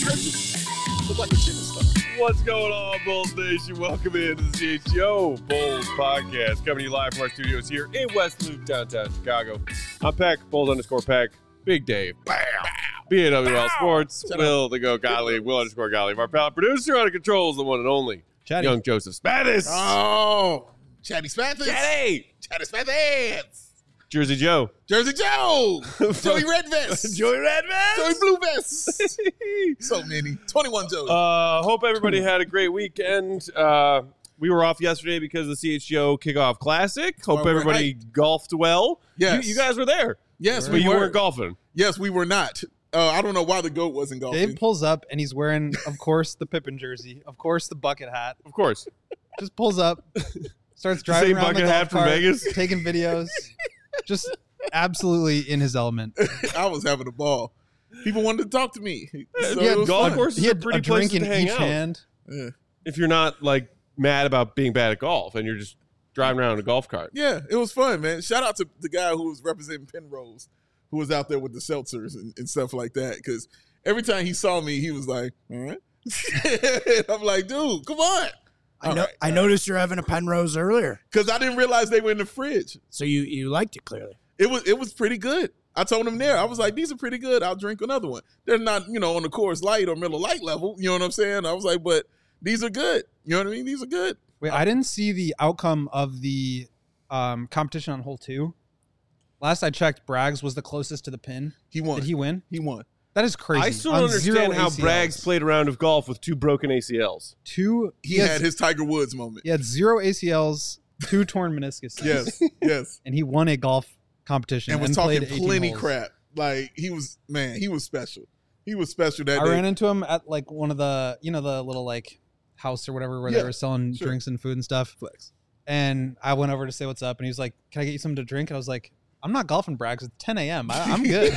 Look like a chicken stuff. What's going on, Bulls Nation? Welcome into the CHGO Bulls podcast, coming to you live from our studios here in West Loop, downtown Chicago. I'm Peck, Bulls_Peck, Big Dave, Bam, BAWL Sports, Will the Go Gottlieb, Will_Gottlieb, our pal producer on the controls, the one and only Chatty. Young Joseph Spathis. Oh, Chatty Spathis. Chatty! Chatty Spathis. Jersey Joe. Jersey Joe. Joey Red Vest. Joey Red Vest. Joey Blue Vest. So many. 21 Joey. Hope everybody had a great weekend. We were off yesterday because of the CHGO Kickoff Classic. Hope everybody golfed well. Yes. You guys were there. Yes, but you weren't golfing. Yes, we were not. I don't know why the GOAT wasn't golfing. Dave pulls up and he's wearing, of course, the Pippen jersey. Of course, the bucket hat. Of course. Just pulls up, starts driving Same around bucket the hat golf from cart, Vegas. taking videos. Just absolutely in his element. I was having a ball. People wanted to talk to me. So Yeah, it was golf fun. course He is a had pretty a place drink in to hang each out. hand. Yeah. If you're not like mad about being bad at golf and you're just driving around in a golf cart. Yeah, it was fun, man. Shout out to the guy who was representing Penrose, who was out there with the seltzers and stuff like that. Because every time he saw me, he was like, all right. I'm like, dude, come on. I noticed you're having a Penrose earlier, Because I didn't realize they were in the fridge. so you liked it clearly. It was pretty good. I told him there. I was like, these are pretty good. I'll drink another one. They're not, on the Coors Light or Miller Lite level. You know what I'm saying? I was like, but these are good. You know what I mean? These are good. Wait, I didn't see the outcome of the competition on hole 2. Last I checked, Braggs was the closest to the pin. He won. Did he win? He won. That is crazy. I still On don't zero understand how ACLs. Braggs played a round of golf with 2 broken ACLs. He had his Tiger Woods moment. He had 0 ACLs, 2 torn meniscuses. Yes, yes. And he won a golf competition And was played talking 18 plenty holes. crap. Like, he was special. He was special that I day. ran into him at like one of the, the little like house or whatever where they were selling sure. drinks and food and stuff. Flex. And I went over to say what's up, and he was like, "Can I get you something to drink?" And I was like, "I'm not golfing, Braggs. It's 10 a.m. I'm good."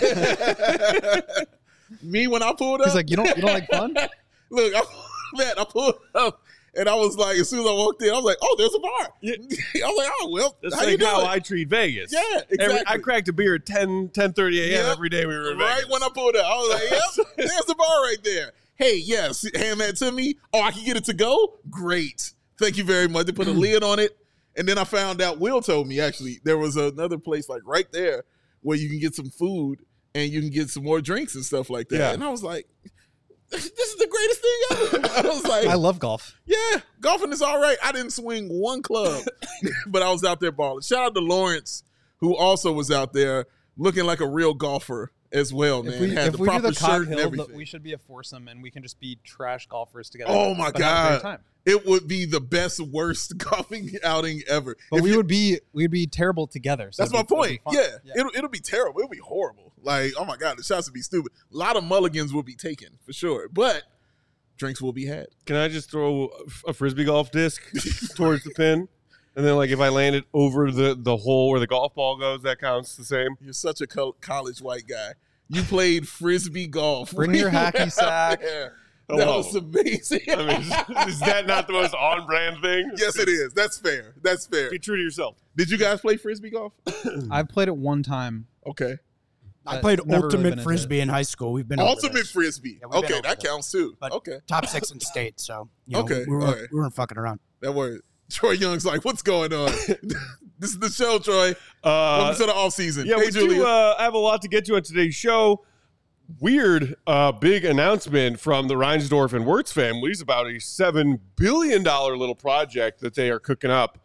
Me, when I pulled up. He's like, "You don't like fun?" Look, I pulled up, and I was like, as soon as I walked in, I was like, oh, there's a bar. Yeah. I was like, oh, well, That's how you like doing? how I treat Vegas. Yeah, exactly. I cracked a beer at 10:30 a.m. Yep. every day we were in Right Vegas. when I pulled up, I was like, yep, there's the bar right there. Hey, yes, hand that to me. Oh, I can get it to go? Great. Thank you very much. They put a lid on it. And then I found out, Will told me, actually, there was another place like right there where you can get some food and you can get some more drinks and stuff like that. Yeah. And I was like, this is the greatest thing ever. I was like, I love golf. yeah, golfing is all right. I didn't swing one club, but I was out there balling. Shout out to Lawrence, who also was out there looking like a real golfer as well, man. Had If we do proper the shirt Cog and Hill, everything. we should be a foursome, and we can just be trash golfers together. Oh, my but have a great God. time. It would be the best, worst golfing outing ever. But If you- we'd be terrible together. So That's my it'd be point. fun. Yeah. It'll be terrible. It'll be horrible. Like, oh my God, the shots would be stupid. A lot of mulligans will be taken for sure, but drinks will be had. Can I just throw a frisbee golf disc towards the pin? And then, like, if I land it over the hole where the golf ball goes, that counts the same? You're such a college white guy. You played frisbee golf. Bring your hacky sack. That Hello. was amazing. I mean, is that not the most on-brand thing? Yes, it is. That's fair. That's fair. Be true to yourself. Did you guys play frisbee golf? I've played it one time. Okay. I But played never really been ultimate into frisbee in high school. We've been over Ultimate this. frisbee. Yeah, we've been Okay, over that this. counts too. But Okay, top 6 in state, so Okay, we all right. weren't fucking around. that word. Troy Young's like, what's going on? This is the show, Troy. Welcome to the off season. Yeah, hey, we Julia. do have a lot to get to on today's show. Weird big announcement from the Reinsdorf and Wirtz families about a $7 billion little project that they are cooking up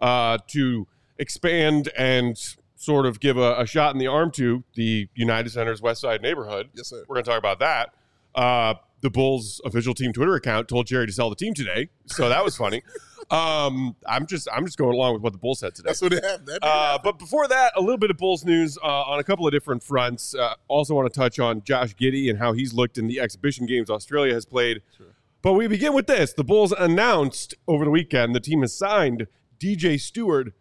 to expand and sort of give a shot in the arm to the United Center's West Side neighborhood. Yes, sir. We're going to talk about that. The Bulls official team Twitter account told Jerry to sell the team today, so that was funny. I'm just going along with what the Bulls said today. That's what it happened. That did happen. But before that, a little bit of Bulls news on a couple of different fronts. Also want to touch on Josh Giddey and how he's looked in the exhibition games Australia has played. Sure. But we begin with this. The Bulls announced over the weekend the team has signed DJ Stewart.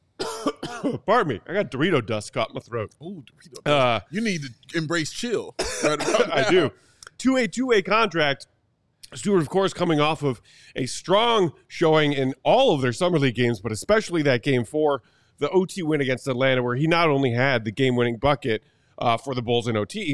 Pardon me. I got Dorito dust caught in my throat. Ooh, Dorito. You need to embrace chill. Right about I now. do. To a two-way contract. Stewart, of course, coming off of a strong showing in all of their Summer League games, but especially that Game 4, the OT win against Atlanta, where he not only had the game-winning bucket for the Bulls in OT,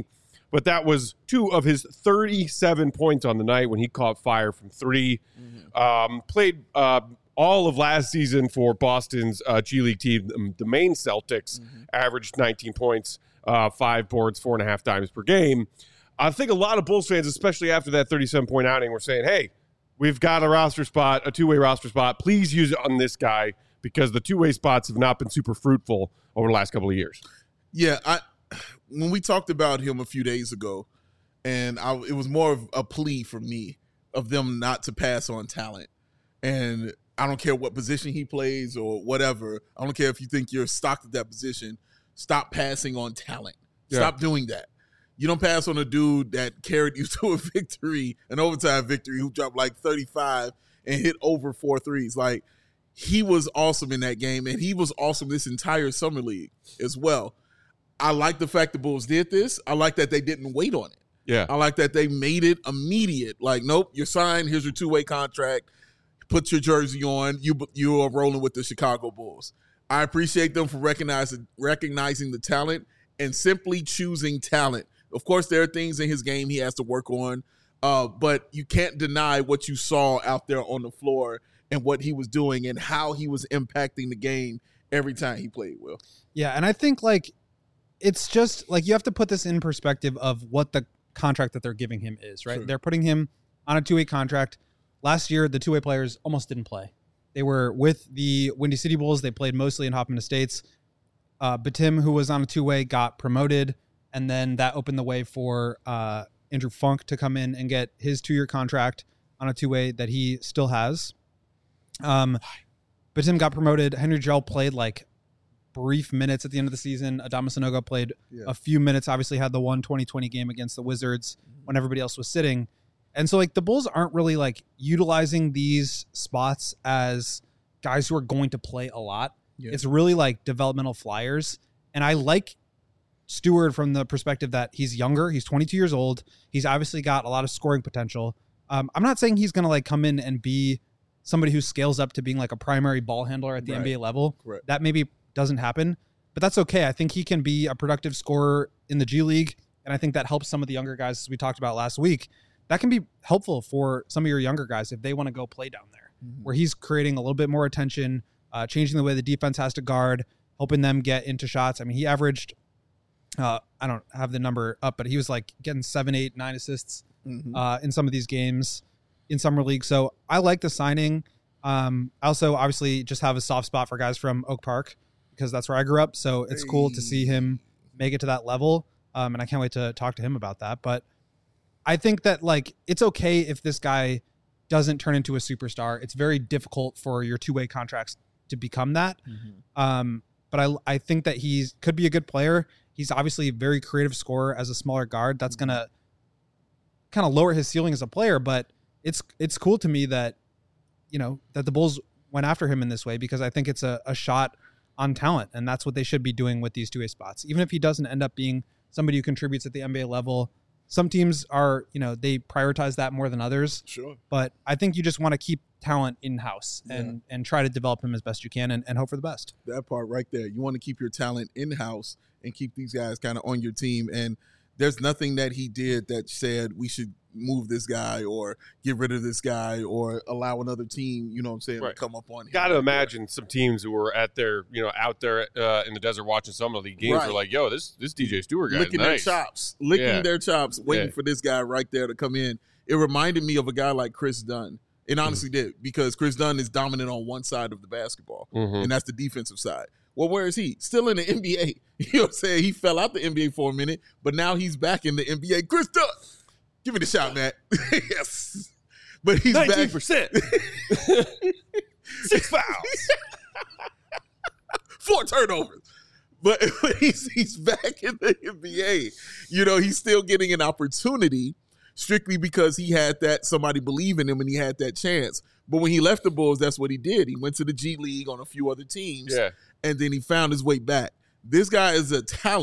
but that was 2 of his 37 points on the night when he caught fire from 3. Played all of last season for Boston's G League team, the Maine Celtics, averaged 19 points, 5 boards, 4.5 dimes per game. I think a lot of Bulls fans, especially after that 37-point outing, were saying, hey, we've got a roster spot, a 2-way roster spot. Please use it on this guy because the 2-way spots have not been super fruitful over the last couple of years. Yeah, when we talked about him a few days ago, and it was more of a plea for me of them not to pass on talent. And I don't care what position he plays or whatever. I don't care if you think you're stocked at that position. Stop passing on talent. Stop doing that. You don't pass on a dude that carried you to a victory, an overtime victory, who dropped like 35 and hit over 4 threes. Like, he was awesome in that game, and he was awesome this entire summer league as well. I like the fact the Bulls did this. I like that they didn't wait on it. Yeah. I like that they made it immediate. Like, nope, you're signed. Here's your 2-way contract. Put your jersey on. You are rolling with the Chicago Bulls. I appreciate them for recognizing the talent and simply choosing talent. Of course, there are things in his game he has to work on, but you can't deny what you saw out there on the floor and what he was doing and how he was impacting the game every time he played, Will. Yeah, and I think, like, it's just, like, you have to put this in perspective of what the contract that they're giving him is, right? Sure. They're putting him on a 2-way contract. Last year, the 2-way players almost didn't play. They were with the Windy City Bulls. They played mostly in Hoffman Estates. Batim, who was on a 2-way, got promoted, and then that opened the way for Andrew Funk to come in and get his 2-year contract on a 2-way that he still has. Batim got promoted. Henry Jarrell played like brief minutes at the end of the season. Adama Sanogo played a few minutes, obviously had the 2020 game against the Wizards when everybody else was sitting. And so, like, the Bulls aren't really, like, utilizing these spots as guys who are going to play a lot. Yeah. It's really, like, developmental flyers. And I like Stewart from the perspective that he's younger. He's 22 years old. He's obviously got a lot of scoring potential. I'm not saying he's going to, like, come in and be somebody who scales up to being, like, a primary ball handler at the NBA level. Right. That maybe doesn't happen, but that's okay. I think he can be a productive scorer in the G League, and I think that helps some of the younger guys, as we talked about last week. That can be helpful for some of your younger guys if they want to go play down there, where he's creating a little bit more attention, changing the way the defense has to guard, helping them get into shots. I mean, he averaged, I don't have the number up, but he was like getting 7, 8, 9 assists in some of these games in Summer League. So I like the signing. I also obviously just have a soft spot for guys from Oak Park because that's where I grew up. So it's cool to see him make it to that level. And I can't wait to talk to him about that. But I think that, like, it's okay if this guy doesn't turn into a superstar. It's very difficult for your 2-way contracts to become that. But I think that he could be a good player. He's obviously a very creative scorer as a smaller guard. That's going to kind of lower his ceiling as a player. But it's cool to me that, you know, that the Bulls went after him in this way because I think it's a shot on talent. And that's what they should be doing with these 2-way spots. Even if he doesn't end up being somebody who contributes at the NBA level, some teams are, you know, they prioritize that more than others. Sure. But I think you just want to keep talent in-house and try to develop him as best you can and hope for the best. That part right there. You want to keep your talent in-house and keep these guys kind of on your team. And there's nothing that he did that said we should move this guy or get rid of this guy or allow another team, you know what I'm saying, to come up on him. Got to imagine some teams who were at their, you know, out there in the desert watching some of the games were like, yo, this DJ Stewart guy licking nice. their chops, waiting for this guy right there to come in. It reminded me of a guy like Chris Dunn. It honestly did, because Chris Dunn is dominant on one side of the basketball, and that's the defensive side. Well, where is he? Still in the NBA. You know what I'm saying? He fell out the NBA for a minute, but now he's back in the NBA. Chris Dunn. Give me the shot, Matt. Yes. But he's 19%. back. 6 fouls. 4 turnovers. But he's back in the NBA. You know, he's still getting an opportunity strictly because he had that, somebody believe in him and he had that chance. But when he left the Bulls, that's what he did. He went to the G League on a few other teams, and then he found his way back. This guy is a talent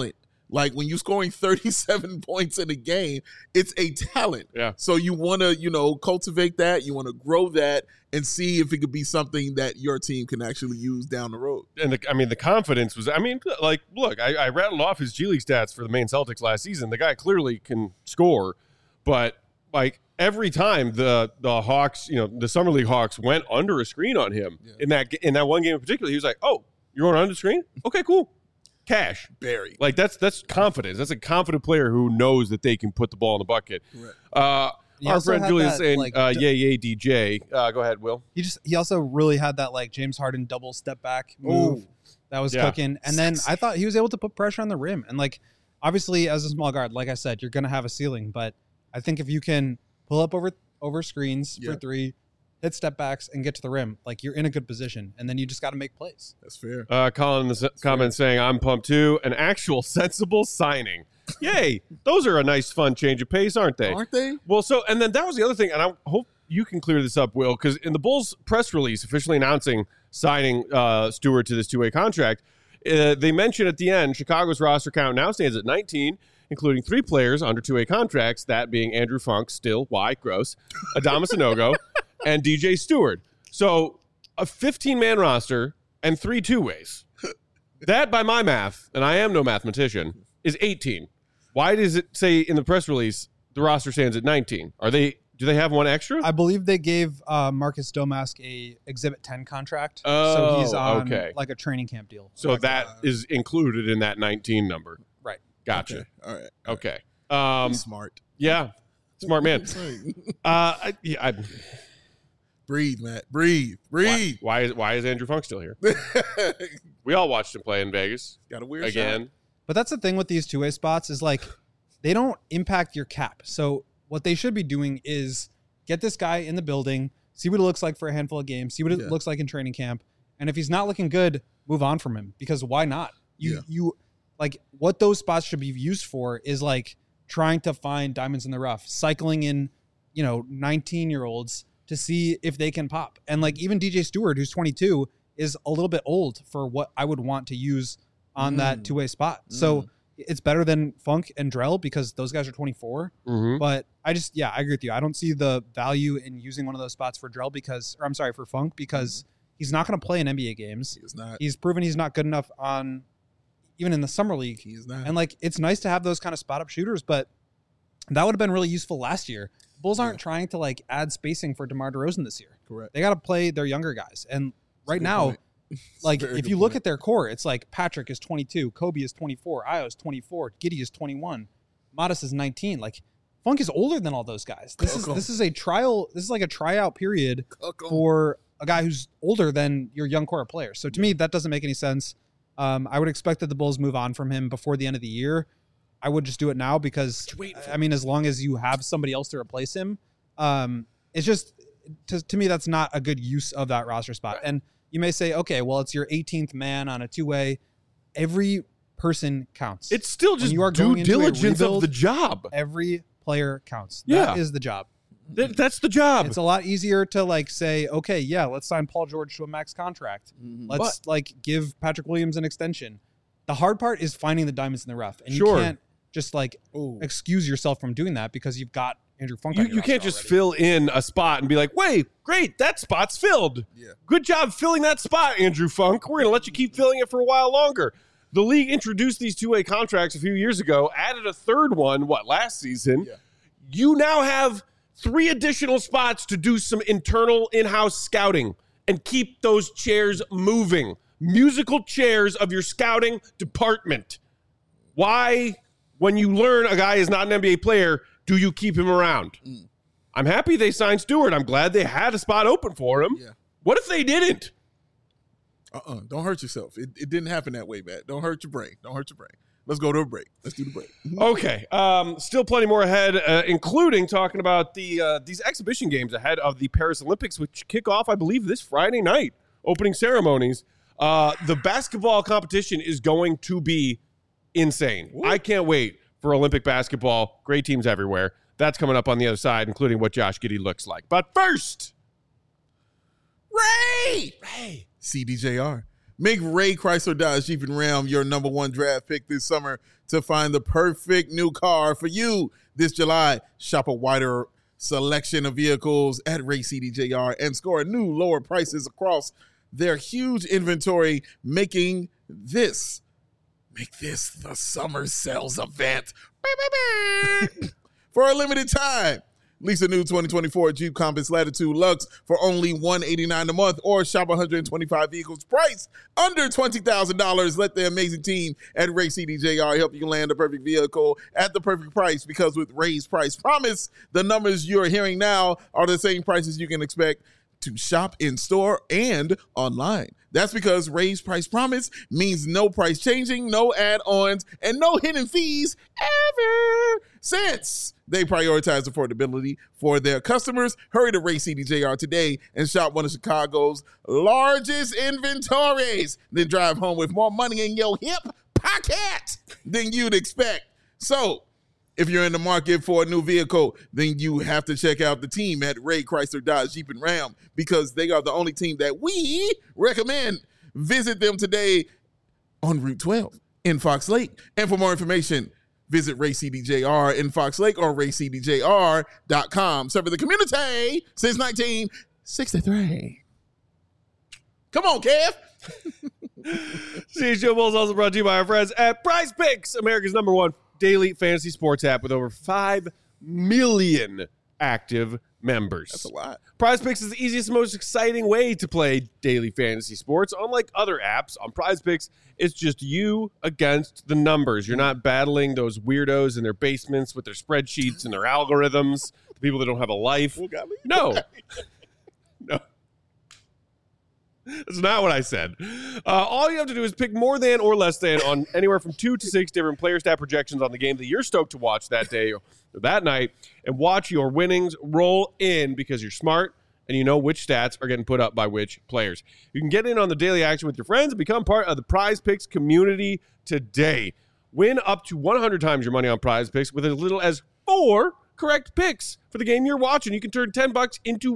Like when you're scoring 37 points in a game, it's a talent. Yeah. So you want to, cultivate that. You want to grow that and see if it could be something that your team can actually use down the road. And the confidence was, look, I rattled off his G League stats for the Maine Celtics last season. The guy clearly can score, but like every time the Hawks, the Summer League Hawks went under a screen on him in that one game in particular, he was like, "Oh, you're going under the screen? Okay, cool. Cash." Barry. Like that's confidence. That's a confident player who knows that they can put the ball in the bucket. Right. Our friend Julian saying, yay, DJ. Go ahead, Will. He also really had that like James Harden double step back move that was cooking. And then I thought he was able to put pressure on the rim. And like, obviously as a small guard, like I said, you're going to have a ceiling, but I think if you can pull up over screens for three, hit step backs and get to the rim, like you're in a good position. And then you just got to make plays. That's fair. Colin in the comments saying, I'm pumped too. An actual sensible signing. Yay. Those are a nice, fun change of pace, aren't they? Aren't they? Well, and then that was the other thing, and I hope you can clear this up, Will, because in the Bulls press release officially announcing signing Stewart to this two-way contract, they mentioned at the end Chicago's roster count now stands at 19, including 3 players under two-way contracts, that being Andrew Funk, still, why, gross, Adamas Sanogo, and DJ Stewart. So a 15-man roster and 3 two-ways. That, by my math, and I am no mathematician, is 18. Why does it say in the press release the roster stands at 19? Do they have one extra? I believe they gave Marcus Domask a Exhibit 10 contract. Oh, so he's on okay. like a training camp deal. So that is included in that 19 number. Right. Gotcha. Okay. All right. Okay. Smart. Yeah. Smart man. Breathe, Matt. Breathe. Why is Andrew Funk still here? We all watched him play in Vegas. Got a weird again. shot. But that's the thing with these two-way spots is like they don't impact your cap. So what they should be doing is get this guy in the building, see what it looks like for a handful of games, see what it looks like in training camp. And if he's not looking good, move on from him, because why not? You like what those spots should be used for is like trying to find diamonds in the rough, cycling in, 19-year-olds to see if they can pop. And like even DJ Stewart, who's 22, is a little bit old for what I would want to use on that two-way spot. So it's better than Funk and Drell because those guys are 24. Mm-hmm. But I agree with you. I don't see the value in using one of those spots for Drell for Funk because he's not going to play in NBA games. He's not. He's proven he's not good enough even in the summer league. He's not. And like, it's nice to have those kind of spot up shooters, but that would have been really useful last year. Bulls aren't trying to like add spacing for DeMar DeRozan this year. Correct. They got to play their younger guys. And right now, point. like if you look at their core, it's like Patrick is 22, Kobe is 24, Ayo is 24, Giddey is 21, Modest is 19. Like Funk is older than all those guys. This is a trial. This is like a tryout period for a guy who's older than your young core of players. So to me, that doesn't make any sense. I would expect that the Bulls move on from him before the end of the year. I would just do it now because as long as you have somebody else to replace him, it's just to me that's not a good use of that roster spot. And you may say, okay, well, it's your 18th man on a two-way. Every person counts. It's still just due diligence of the job. Every player counts. Yeah. That is the job. That's the job. It's a lot easier to like say, okay, yeah, let's sign Paul George to a max contract. Let's like give Patrick Williams an extension. The hard part is finding the diamonds in the rough. And you can't just like excuse yourself from doing that because you've got Andrew Funk. You can't just fill in a spot and be like, wait, great, that spot's filled. Yeah. Good job filling that spot, Andrew Funk. We're going to let you keep filling it for a while longer. The league introduced these two-way contracts a few years ago, added a third one, last season. Yeah. You now have 3 additional spots to do some internal in-house scouting and keep those chairs moving. Musical chairs of your scouting department. Why, when you learn a guy is not an NBA player, do you keep him around? I'm happy they signed Stewart. I'm glad they had a spot open for him. Yeah. What if they didn't? Don't hurt yourself. It didn't happen that way, Matt. Don't hurt your brain. Let's go to a break. Let's do the break. Okay. Still plenty more ahead, including talking about these exhibition games ahead of the Paris Olympics, which kick off, I believe, this Friday night. Opening ceremonies. The basketball competition is going to be insane. Ooh. I can't wait for Olympic basketball. Great teams everywhere. That's coming up on the other side, including what Josh Giddey looks like. But first, Ray! CDJR. Make Ray Chrysler Dodge Jeep and Ram your number one draft pick this summer to find the perfect new car for you. This July, shop a wider selection of vehicles at Ray CDJR and score new lower prices across their huge inventory, make this the summer sales event. For a limited time, lease a new 2024 Jeep Compass Latitude Lux for only $189 a month or shop 125 vehicles priced under $20,000. Let the amazing team at Ray CDJR help you land the perfect vehicle at the perfect price, because with Ray's Price Promise, the numbers you're hearing now are the same prices you can expect to shop in store and online. That's because Ray's Price Promise means no price changing, no add-ons, and no hidden fees ever. Since they prioritize affordability for their customers, hurry to Ray CDJR today and shop one of Chicago's largest inventories. Then drive home with more money in your hip pocket than you'd expect. So, if you're in the market for a new vehicle, then you have to check out the team at Ray Chrysler Dodge Jeep and Ram, because they are the only team that we recommend. Visit them today on Route 12 in Fox Lake. And for more information, visit Ray CDJR in Fox Lake or raycdjr.com. Serving the community since 1963. Come on, Kev. CHGO Bulls also brought to you by our friends at Prize Picks, America's number one daily fantasy sports app with over 5 million active members. That's a lot. Prize Picks is the easiest and most exciting way to play daily fantasy sports. Unlike other apps, on Prize Picks, it's just you against the numbers. You're not battling those weirdos in their basements with their spreadsheets and their algorithms, the people that don't have a life. No. No. That's not what I said. All you have to do is pick more than or less than on anywhere from 2 to 6 different player stat projections on the game that you're stoked to watch that day or that night, and watch your winnings roll in, because you're smart and you know which stats are getting put up by which players. You can get in on the daily action with your friends and become part of the Prize Picks community today. Win up to 100 times your money on Prize Picks with as little as 4 correct picks for the game you're watching. You can turn $10 into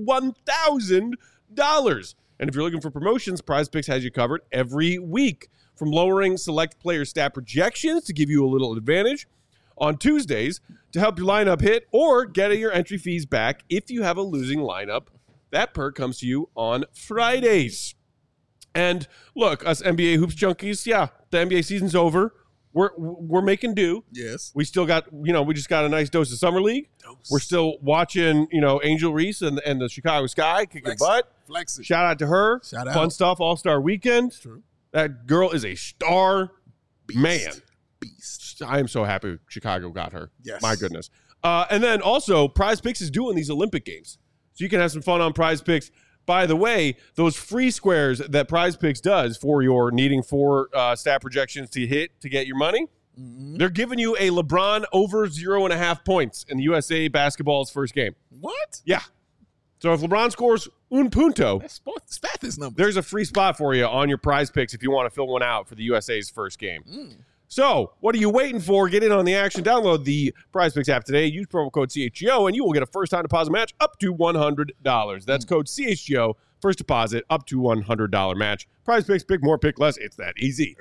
$1,000. And if you're looking for promotions, Prize Picks has you covered every week. From lowering select player stat projections to give you a little advantage on Tuesdays to help your lineup hit, or getting your entry fees back if you have a losing lineup. That perk comes to you on Fridays. And look, us NBA Hoops junkies, yeah, the NBA season's over. We're making do. Yes. We still got, we just got a nice dose of Summer League. We're still watching, Angel Reese and the Chicago Sky kicking butt. Flexing. Shout out to her. Shout out. Fun stuff, All-Star Weekend. True. That girl is a star man. Beast. I am so happy Chicago got her. Yes. My goodness. And then also, Prize Picks is doing these Olympic Games. So you can have some fun on Prize Picks. By the way, those free squares that Prize Picks does for your needing 4 stat projections to hit to get your money, they're giving you a LeBron over 0.5 points in the USA basketball's first game. What? Yeah. So if LeBron scores un punto, Stat this number. there's a free spot for you on your Prize Picks if you want to fill one out for the USA's first game. So what are you waiting for? Get in on the action. Download the Prize Picks app today. Use promo code CHGO, and you will get a first-time deposit match up to $100. That's code CHGO. First deposit up to $100 match. Prize Picks, pick more, pick less. It's that easy.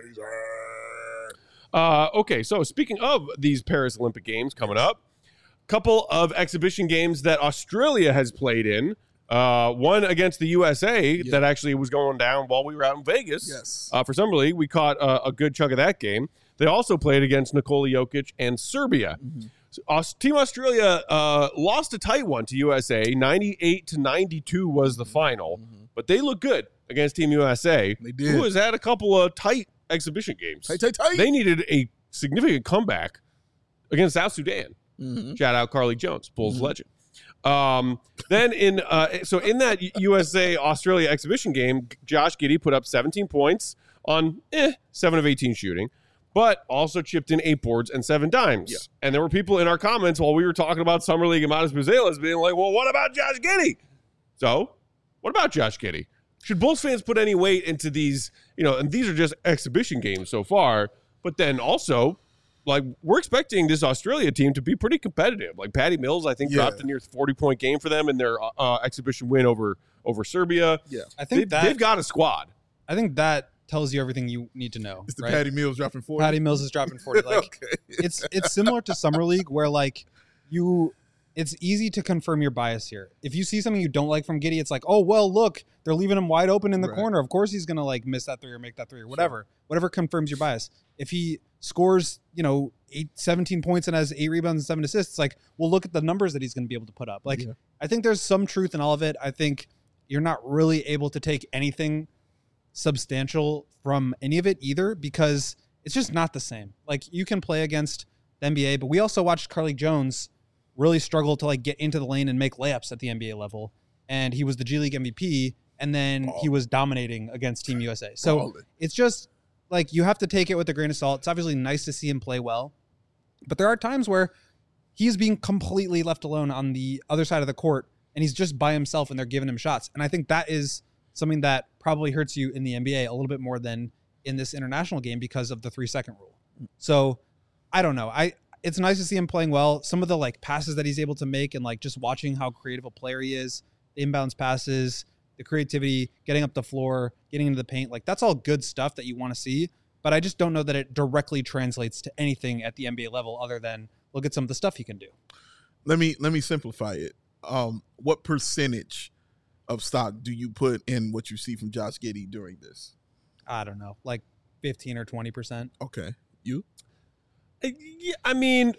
Okay, so speaking of these Paris Olympic Games coming up, couple of exhibition games that Australia has played in. One against the USA that actually was going down while we were out in Vegas. Yes. For Summer League, we caught a good chunk of that game. They also played against Nikola Jokic and Serbia. So, Team Australia lost a tight one to USA. 98-92 was the final. But they look good against Team USA. They did. Who has had a couple of tight exhibition games. Tight. They needed a significant comeback against South Sudan. Shout out Carly Jones, Bulls legend. Then in that USA Australia exhibition game, Josh Giddey put up 17 points on 7 of 18 shooting, but also chipped in 8 boards and 7 dimes. Yeah. And there were people in our comments while we were talking about Summer League and Modest Buzelas being like, well, what about Josh Giddey? So what about Josh Giddey? Should Bulls fans put any weight into these, and these are just exhibition games so far, but then also, like, we're expecting this Australia team to be pretty competitive. Like, Patty Mills, I think, dropped a near 40-point game for them in their exhibition win over Serbia. Yeah. I think they've got a squad. I think that tells you everything you need to know. It's the right? Patty Mills dropping 40. Patty Mills is dropping 40. Like Okay. it's similar to Summer League where like it's easy to confirm your bias here. If you see something you don't like from Giddey, it's like, oh well, look, they're leaving him wide open in the Right. corner. Of course he's gonna like miss that 3 or make that 3 or whatever. Whatever confirms your bias. If he scores, 17 points and has 8 rebounds and 7 assists, like we'll look at the numbers that he's gonna be able to put up. Like Yeah. I think there's some truth in all of it. I think you're not really able to take anything substantial from any of it either because it's just not the same. Like you can play against the NBA, but we also watched Carly Jones really struggle to like get into the lane and make layups at the NBA level. And he was the G League MVP and then he was dominating against Team USA. So Ballin'. it's just like you have to take it with a grain of salt. It's obviously nice to see him play well, but there are times where he's being completely left alone on the other side of the court and he's just by himself and they're giving him shots. And I think that is something that probably hurts you in the NBA a little bit more than in this international game because of the 3-second rule. So I don't know. It's nice to see him playing well. Some of the like passes that he's able to make and like just watching how creative a player he is, the inbounds passes, the creativity, getting up the floor, getting into the paint, like that's all good stuff that you want to see. But I just don't know that it directly translates to anything at the NBA level other than look at some of the stuff he can do. Let me simplify it. What percentage of stock do you put in what you see from Josh Giddey during this? I don't know, like 15 or 20%. Okay. You? Yeah, I mean,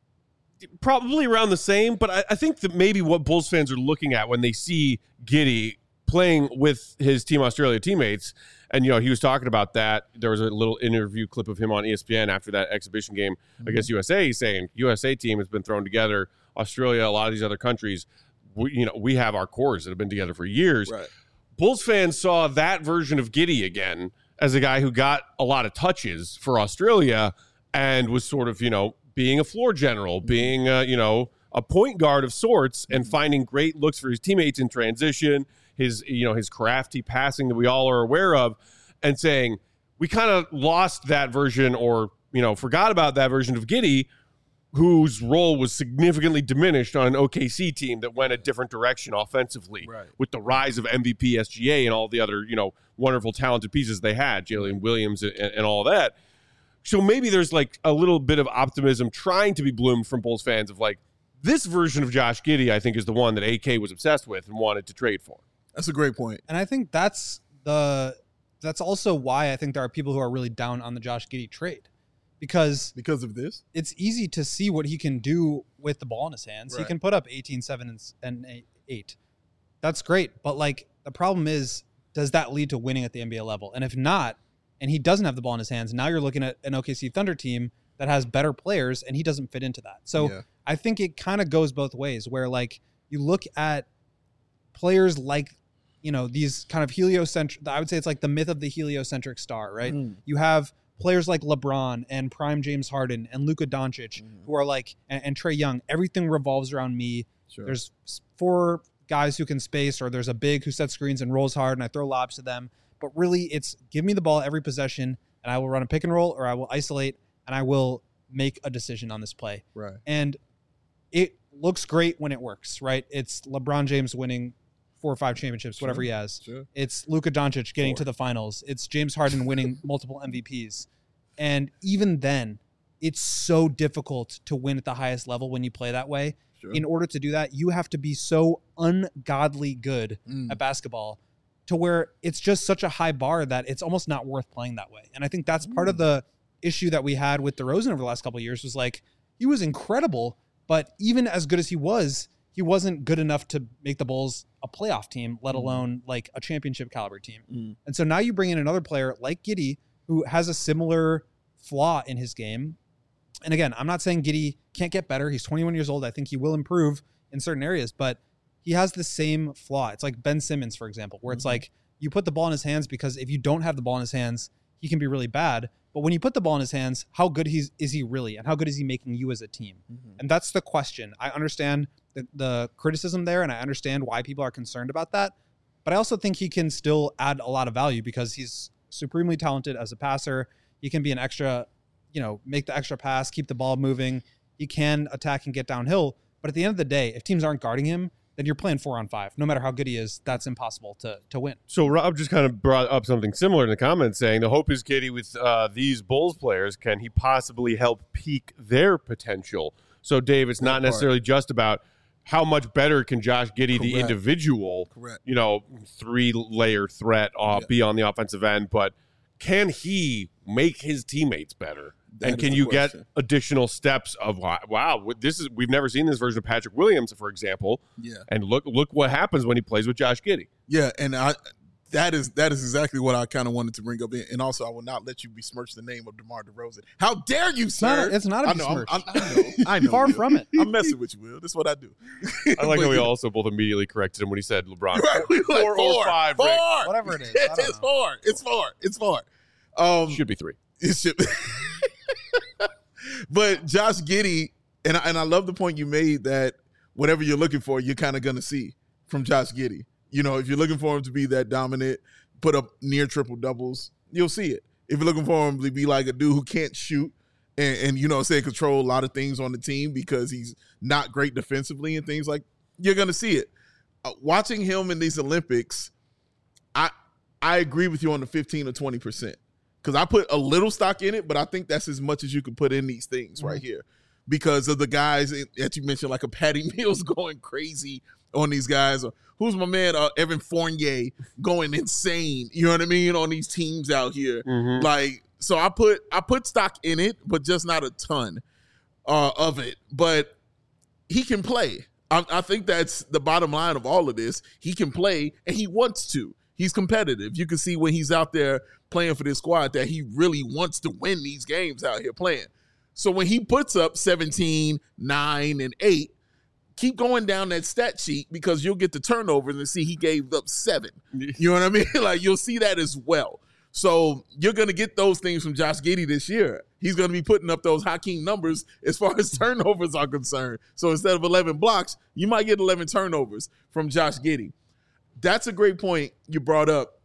probably around the same, but I think that maybe what Bulls fans are looking at when they see Giddey playing with his Team Australia teammates, and, he was talking about that. There was a little interview clip of him on ESPN after that exhibition game against USA. He's saying, USA team has been thrown together. Australia, a lot of these other countries, we have our cores that have been together for years. Right. Bulls fans saw that version of Giddey again as a guy who got a lot of touches for Australia and was sort of, being a floor general, being, a point guard of sorts and finding great looks for his teammates in transition, his crafty passing that we all are aware of, and saying, we kind of lost that version or, forgot about that version of Giddey, whose role was significantly diminished on an OKC team that went a different direction offensively with the rise of MVP SGA and all the other, wonderful, talented pieces they had, Jalen Williams and all that. So maybe there's like a little bit of optimism trying to be bloomed from Bulls fans of like, this version of Josh Giddey, I think, is the one that AK was obsessed with and wanted to trade for. That's a great point. And I think that's also why I think there are people who are really down on the Josh Giddey trade. Because of this? It's easy to see what he can do with the ball in his hands. Right. He can put up 18, 7, and 8. That's great. But like the problem is, does that lead to winning at the NBA level? And if not, and he doesn't have the ball in his hands, now you're looking at an OKC Thunder team that has better players and he doesn't fit into that. So I think it kind of goes both ways where like you look at players like, these kind of heliocentric, I would say it's like the myth of the heliocentric star, right? You have players like LeBron and prime James Harden and Luka Doncic who are like, and Trae Young, everything revolves around me. Sure. There's 4 guys who can space, or there's a big who sets screens and rolls hard and I throw lobs to them. But really it's give me the ball every possession and I will run a pick and roll or I will isolate and I will make a decision on this play. Right. And it looks great when it works, right? It's LeBron James winning 4 or 5 championships, whatever he has. Sure. It's Luka Doncic getting to the finals. It's James Harden winning multiple MVPs. And even then, it's so difficult to win at the highest level when you play that way. Sure. In order to do that, you have to be so ungodly good at basketball to where it's just such a high bar that it's almost not worth playing that way. And I think that's part of the issue that we had with DeRozan over the last couple of years was like, he was incredible, but even as good as he wasn't good enough to make the Bulls a playoff team, let alone like a championship caliber team. And so now you bring in another player like Giddey, who has a similar flaw in his game. And again, I'm not saying Giddey can't get better. He's 21 years old. I think he will improve in certain areas, but he has the same flaw. It's like Ben Simmons, for example, where it's like you put the ball in his hands because if you don't have the ball in his hands, he can be really bad. But when you put the ball in his hands, how good is he really? And how good is he making you as a team? And that's the question. I understand the criticism there, and I understand why people are concerned about that. But I also think he can still add a lot of value because he's supremely talented as a passer. He can be an extra, make the extra pass, keep the ball moving. He can attack and get downhill. But at the end of the day, if teams aren't guarding him, then you're playing 4-on-5. No matter how good he is, that's impossible to win. So Rob just kind of brought up something similar in the comments, saying the hope is Giddey with these Bulls players. Can he possibly help peak their potential? So Dave, it's not necessarily just about how much better can Josh Giddey, the individual, three-layer threat be on the offensive end, but can he make his teammates better? And can you get additional steps of we've never seen this version of Patrick Williams, for example. Yeah. And look what happens when he plays with Josh Giddey. Yeah, and that is exactly what I kind of wanted to bring up. And also, I will not let you besmirch the name of DeMar DeRozan. How dare you, sir? It's not a besmirch. I know. Far from it. I'm messing with you, Will. That's what I do. I like how we also both immediately corrected him when he said LeBron. Right, four or five. Whatever it is. It's four. It's four. Should be 3. It should be. But Josh Giddey, and I love the point you made that whatever you're looking for, you're kind of going to see from Josh Giddey. You know, if you're looking for him to be that dominant, put up near triple doubles, you'll see it. If you're looking for him to be like a dude who can't shoot and you know, control a lot of things on the team because he's not great defensively and things like, you're going to see it. Watching him in these Olympics, I agree with you on the 15 or 20%. Because I put a little stock in it, but I think that's as much as you can put in these things right here. Because of the guys that you mentioned, like a Patty Mills going crazy on these guys. Or who's my man, Evan Fournier, going insane, you know what I mean, on these teams out here. Mm-hmm. Like, so I put stock in it, but just not a ton of it. But he can play. I think that's the bottom line of all of this. He can play, and he wants to. He's competitive. You can see when he's out there playing for this squad that he really wants to win these games out here playing. So when he puts up 17, 9, and 8, keep going down that stat sheet because you'll get the turnovers and see he gave up 7. You know what I mean? Like, you'll see that as well. So you're going to get those things from Josh Giddey this year. He's going to be putting up those Hakeem numbers as far as turnovers are concerned. So instead of 11 blocks, you might get 11 turnovers from Josh Giddey. That's a great point you brought up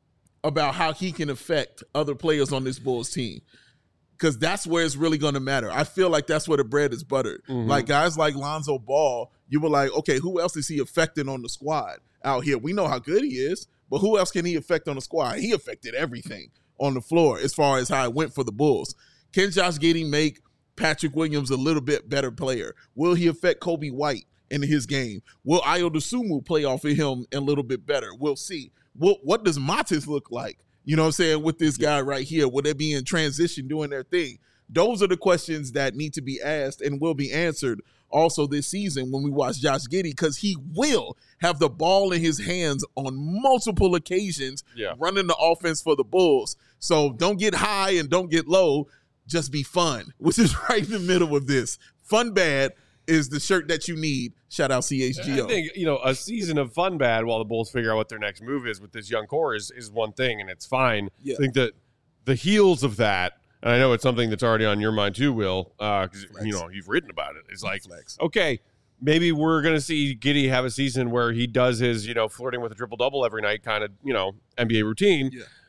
about how he can affect other players on this Bulls team, because that's where it's really going to matter. I feel like that's where the bread is buttered. Mm-hmm. Like guys like Lonzo Ball, you were like, okay, who else is he affecting on the squad out here? We know how good he is, but who else can he affect on the squad? He affected everything on the floor as far as how it went for the Bulls. Can Josh Giddey make Patrick Williams a little bit better player? Will he affect Kobe White in his game? Will Ayo Dosunmu play off of him a little bit better? We'll see. What does Matis look like? You know what I'm saying, with this guy right here? Will they be in transition doing their thing? Those are the questions that need to be asked and will be answered also this season when we watch Josh Giddey, because he will have the ball in his hands on multiple occasions running the offense for the Bulls. So don't get high and don't get low. Just be fun, which is right in the middle of this. Fun bad is the shirt that you need. Shout out CHGO. I think, a season of fun bad while the Bulls figure out what their next move is with this young core is one thing, and it's fine. Yeah. I think that the heels of that, and I know it's something that's already on your mind too, Will, because you've written about it. It's like, okay, maybe we're going to see Giddey have a season where he does his, flirting with a triple-double every night kind of, NBA routine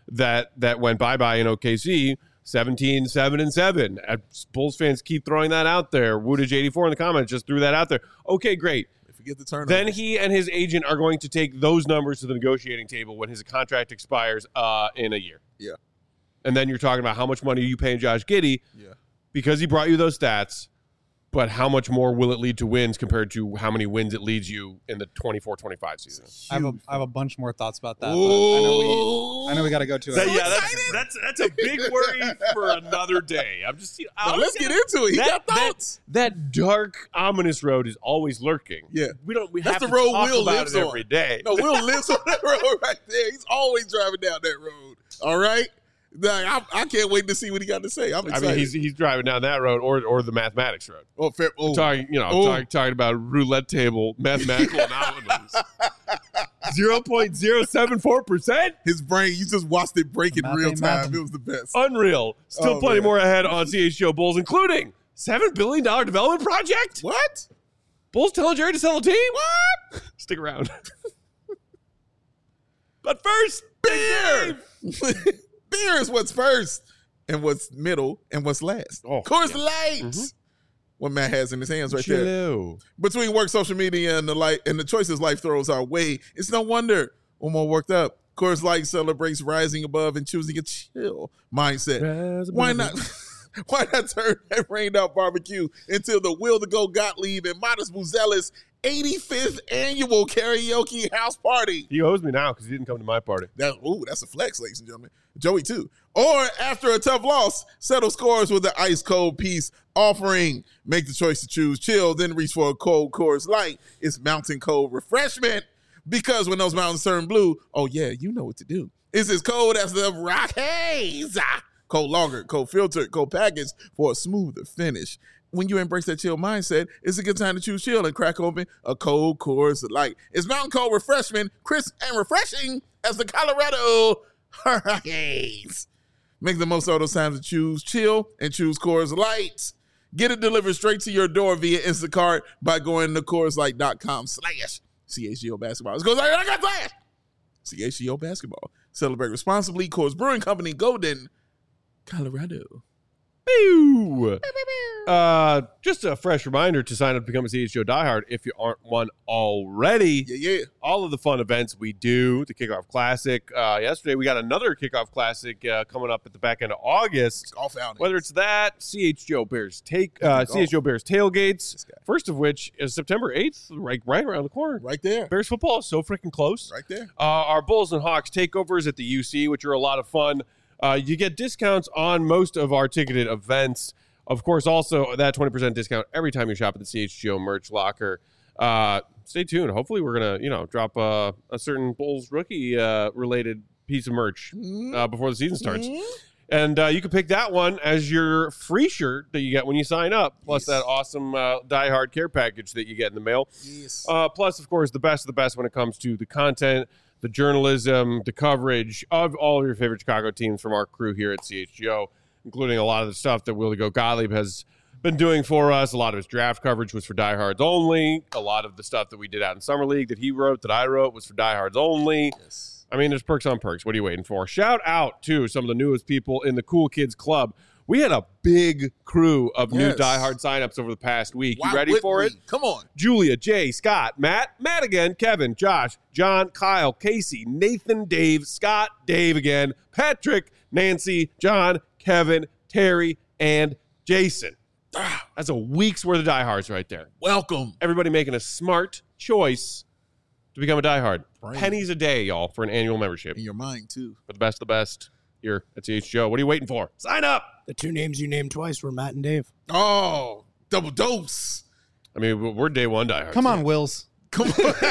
that went bye-bye in OKC. 17, 7, and 7. Bulls fans keep throwing that out there. Woodage84 in the comments just threw that out there. Okay, great. If you get the turnover, then he and his agent are going to take those numbers to the negotiating table when his contract expires in a year. Yeah. And then you're talking about how much money are you paying Josh Giddey because he brought you those stats, but how much more will it lead to wins compared to how many wins it leads you in the 24-25 season? I have a bunch more thoughts about that. But I know we got to go to it. That's a big worry for another day. I'm just let's get into it. You got thoughts. That dark, ominous road is always lurking. Yeah, we that's have the to road talk Will about lives it on every day. No, Will lives on that road right there. He's always driving down that road. All right. I can't wait to see what he got to say. I'm excited. I mean, he's driving down that road or the mathematics road. Oh, fair. Oh. Talking about roulette table mathematical anomalies. 0.074%. His brain, you just watched it break in real time. It was the best. Unreal. Still plenty more ahead on CHGO Bulls, including $7 billion development project. What? Bulls telling Jerry to sell a team? What? Stick around. But first, beer. Beer is what's first and what's middle and what's last. Oh, Coors Light. Mm-hmm. what Matt has in his hands right there. Chillo. Between work, social media, and the choices life throws our way, it's no wonder we're more worked up. Coors Light celebrates rising above and choosing a chill mindset. Why not? Why not turn that rained out barbecue into the Will to Go Gottlieb and Modest Buzelis 85th annual karaoke house party? He owes me now because he didn't come to my party. That's a flex, ladies and gentlemen. Joey, too. Or after a tough loss, settle scores with the ice cold peace offering. Make the choice to choose chill, then reach for a cold Coors Light. It's mountain cold refreshment. Because when those mountains turn blue, oh yeah, you know what to do. It's as cold as the Rockies. Cold lager, cold filtered, cold packaged for a smoother finish. When you embrace that chill mindset, it's a good time to choose chill and crack open a cold Coors Light. It's mountain cold refreshment, crisp and refreshing as the Colorado Hurricanes. Make the most of those times to choose chill and choose Coors Light. Get it delivered straight to your door via Instacart by going to CoorsLight.com/CHGO basketball. It goes like that. CHGO basketball. Celebrate responsibly. Coors Brewing Company, Golden, Colorado. Pew! Just a fresh reminder to sign up to become a CHGO diehard if you aren't one already. Yeah. All of the fun events we do, the Kickoff Classic. Yesterday, we got another Kickoff Classic coming up at the back end of August. Golf outing. Whether it's that, CHGO Bears CHGO Bears tailgates, first of which is September 8th, right around the corner. Right there. Bears football is so freaking close. Right there. Our Bulls and Hawks takeovers at the UC, which are a lot of fun. You get discounts on most of our ticketed events. Of course, also that 20% discount every time you shop at the CHGO merch locker. Stay tuned. Hopefully, we're gonna drop a certain Bulls rookie related piece of merch before the season starts. And you can pick that one as your free shirt that you get when you sign up, plus that awesome Die Hard care package that you get in the mail. Yes. Plus, of course, the best of the best when it comes to the content, the journalism, the coverage of all of your favorite Chicago teams from our crew here at CHGO, including a lot of the stuff that Will to Go Gottlieb has been doing for us. A lot of his draft coverage was for diehards only. A lot of the stuff that we did out in Summer League that he wrote, that I wrote, was for diehards only. Yes. I mean, there's perks on perks. What are you waiting for? Shout out to some of the newest people in the Cool Kids Club. We had a big crew of new diehard signups over the past week. You ready for it? Come on. Julia, Jay, Scott, Matt again, Kevin, Josh, John, Kyle, Casey, Nathan, Dave, Scott, Dave again, Patrick, Nancy, John, Kevin, Terry, and Jason. That's a week's worth of diehards right there. Welcome. Everybody making a smart choice to become a diehard. Right. Pennies a day, y'all, for an annual membership. In your mind, too. For the best of the best here at CHGO. What are you waiting for? Sign up. The two names you named twice were Matt and Dave. Oh, double dose. I mean, we're day one diehards. Come on, Wills. Come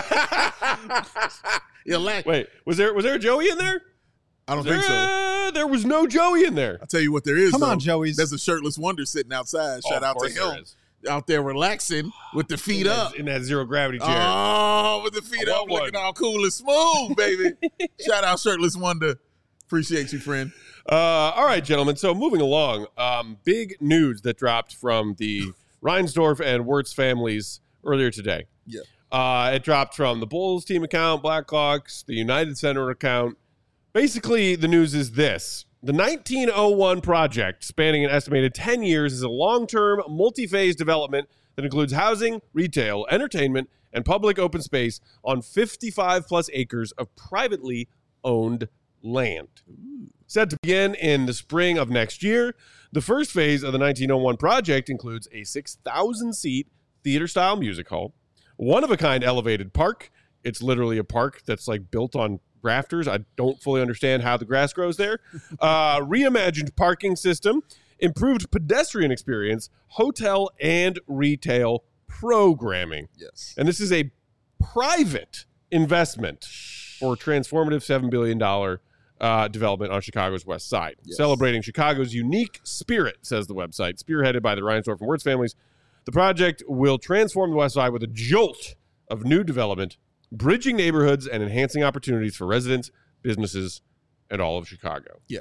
on. Wait, was there a Joey in there? I don't think so. There was no Joey in there. I'll tell you what there is. Come though. on, Joey's. There's a shirtless wonder sitting outside. Shout out to him. Out there relaxing with the feet up. In that zero gravity chair. Oh, with the feet up, looking all cool and smooth, baby. Shout out Shirtless Wonder. Appreciate you, friend. All right, gentlemen. So moving along, big news that dropped from the Reinsdorf and Wirtz families earlier today. Yeah. It dropped from the Bulls team account, Blackhawks, the United Center account. Basically, the news is this. The 1901 project, spanning an estimated 10 years, is a long-term, multi-phase development that includes housing, retail, entertainment, and public open space on 55-plus acres of privately owned land. Set to begin in the spring of next year, the first phase of the 1901 project includes a 6,000-seat theater-style music hall, one-of-a-kind elevated park. It's literally a park that's like built on rafters. I don't fully understand how the grass grows there. Reimagined parking system, improved pedestrian experience, hotel and retail programming. Yes. And this is a private investment for transformative $7 billion development on Chicago's West Side. Yes. Celebrating Chicago's unique spirit, says the website, spearheaded by the Reinsdorf and Wirtz families. The project will transform the West Side with a jolt of new development, bridging neighborhoods and enhancing opportunities for residents, businesses, and all of Chicago. Yeah.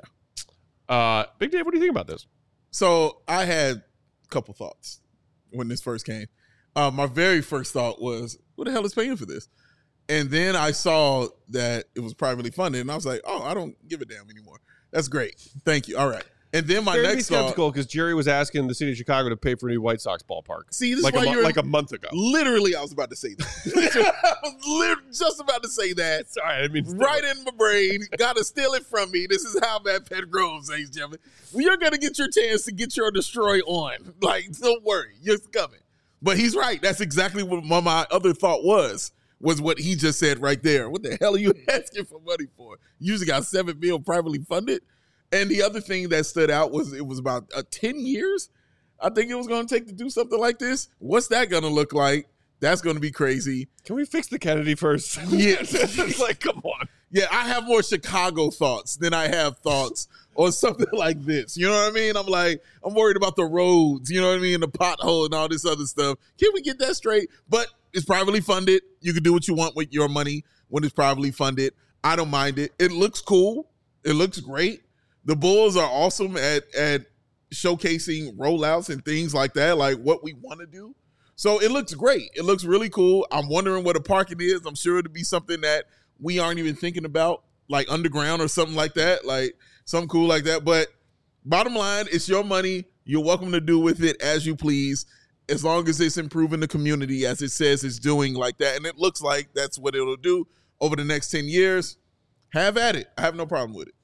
Big Dave, what do you think about this? So I had a couple thoughts when this first came. My very first thought was, who the hell is paying for this? And then I saw that it was privately funded, and I was like, oh, I don't give a damn anymore. That's great. Thank you. All right. And then my Fair to be next thought, skeptical because Jerry was asking the city of Chicago to pay for a new White Sox ballpark. see, this is like why you're like a month ago. literally, I was about to say that. I was just about to say that. Sorry, I mean Right in my brain. Got to steal it from me. This is how Matt Pet grows, ladies and gentlemen. Well, you're going to get your chance to get your destroy on. Like, don't worry. You're coming. But he's right. That's exactly what my other thought was what he just said right there. What the hell are you asking for money for? You usually got $7 million privately funded. And the other thing that stood out was it was about 10 years, I think it was going to take to do something like this. What's that going to look like? That's going to be crazy. Can we fix the Kennedy first? Yeah. It's like, come on. Yeah, I have more Chicago thoughts than I have thoughts on something like this. You know what I mean? I'm worried about the roads, you know what I mean? The pothole and all this other stuff. Can we get that straight? But it's privately funded. You can do what you want with your money when it's privately funded. I don't mind it. It looks cool. It looks great. The Bulls are awesome at showcasing rollouts and things like that, like what we want to do. So it looks great. It looks really cool. I'm wondering what a parking is. I'm sure it'll be something that we aren't even thinking about, like underground or something like that, like something cool like that. But bottom line, it's your money. You're welcome to do with it as you please, as long as it's improving the community as it says it's doing like that. And it looks like that's what it'll do over the next 10 years. Have at it. I have no problem with it.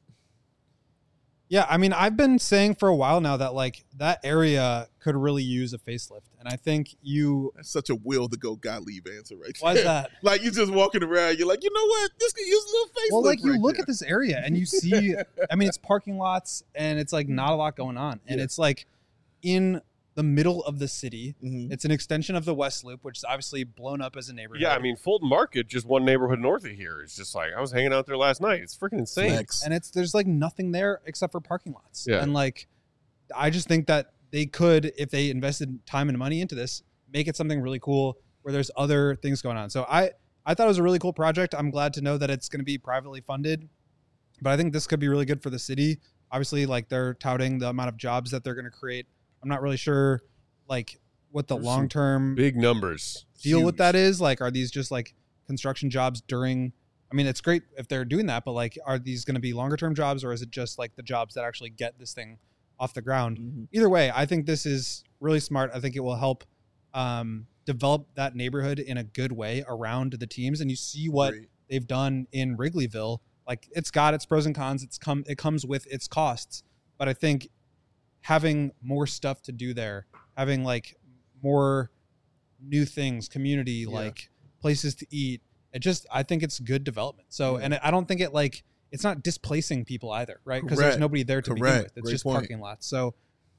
Yeah, I mean, I've been saying for a while now that like that area could really use a facelift, and I think That's such a will to go Gottlieb answer right there. Why is that? Like you just walking around, you're like, you know what? This could use a little facelift. Well, like you right look there. at this area and you see, I mean, it's parking lots and it's like not a lot going on, and it's like in the middle of the city. Mhm. It's an extension of the West Loop, which is obviously blown up as a neighborhood. Yeah, I mean, Fulton Market, just one neighborhood north of here. It's just like, I was hanging out there last night. It's freaking insane. Flex. and there's like nothing there except for parking lots. Yeah. And like, I just think that they could, if they invested time and money into this, make it something really cool where there's other things going on. So I thought it was a really cool project. I'm glad to know that it's going to be privately funded, but I think this could be really good for the city. Obviously, like they're touting the amount of jobs that they're going to create. I'm not really sure like what the There's long-term Big numbers. deal with Huge. that is. Like, are these just like construction jobs during, I mean, it's great if they're doing that, but like, are these going to be longer term jobs, or is it just like the jobs that actually get this thing off the ground? Mhm. Either way, I think this is really smart. I think it will help develop that neighborhood in a good way around the teams. And you see what Great. they've done in Wrigleyville. Like, it's got its pros and cons. It comes with its costs, but I think having more stuff to do there, having like more new things, community, like places to eat, I think it's good development. So, Yeah. and I don't think it's not displacing people either, right? Because there's Correct. nobody there to begin Correct. with. It's Great just point. parking lots. So,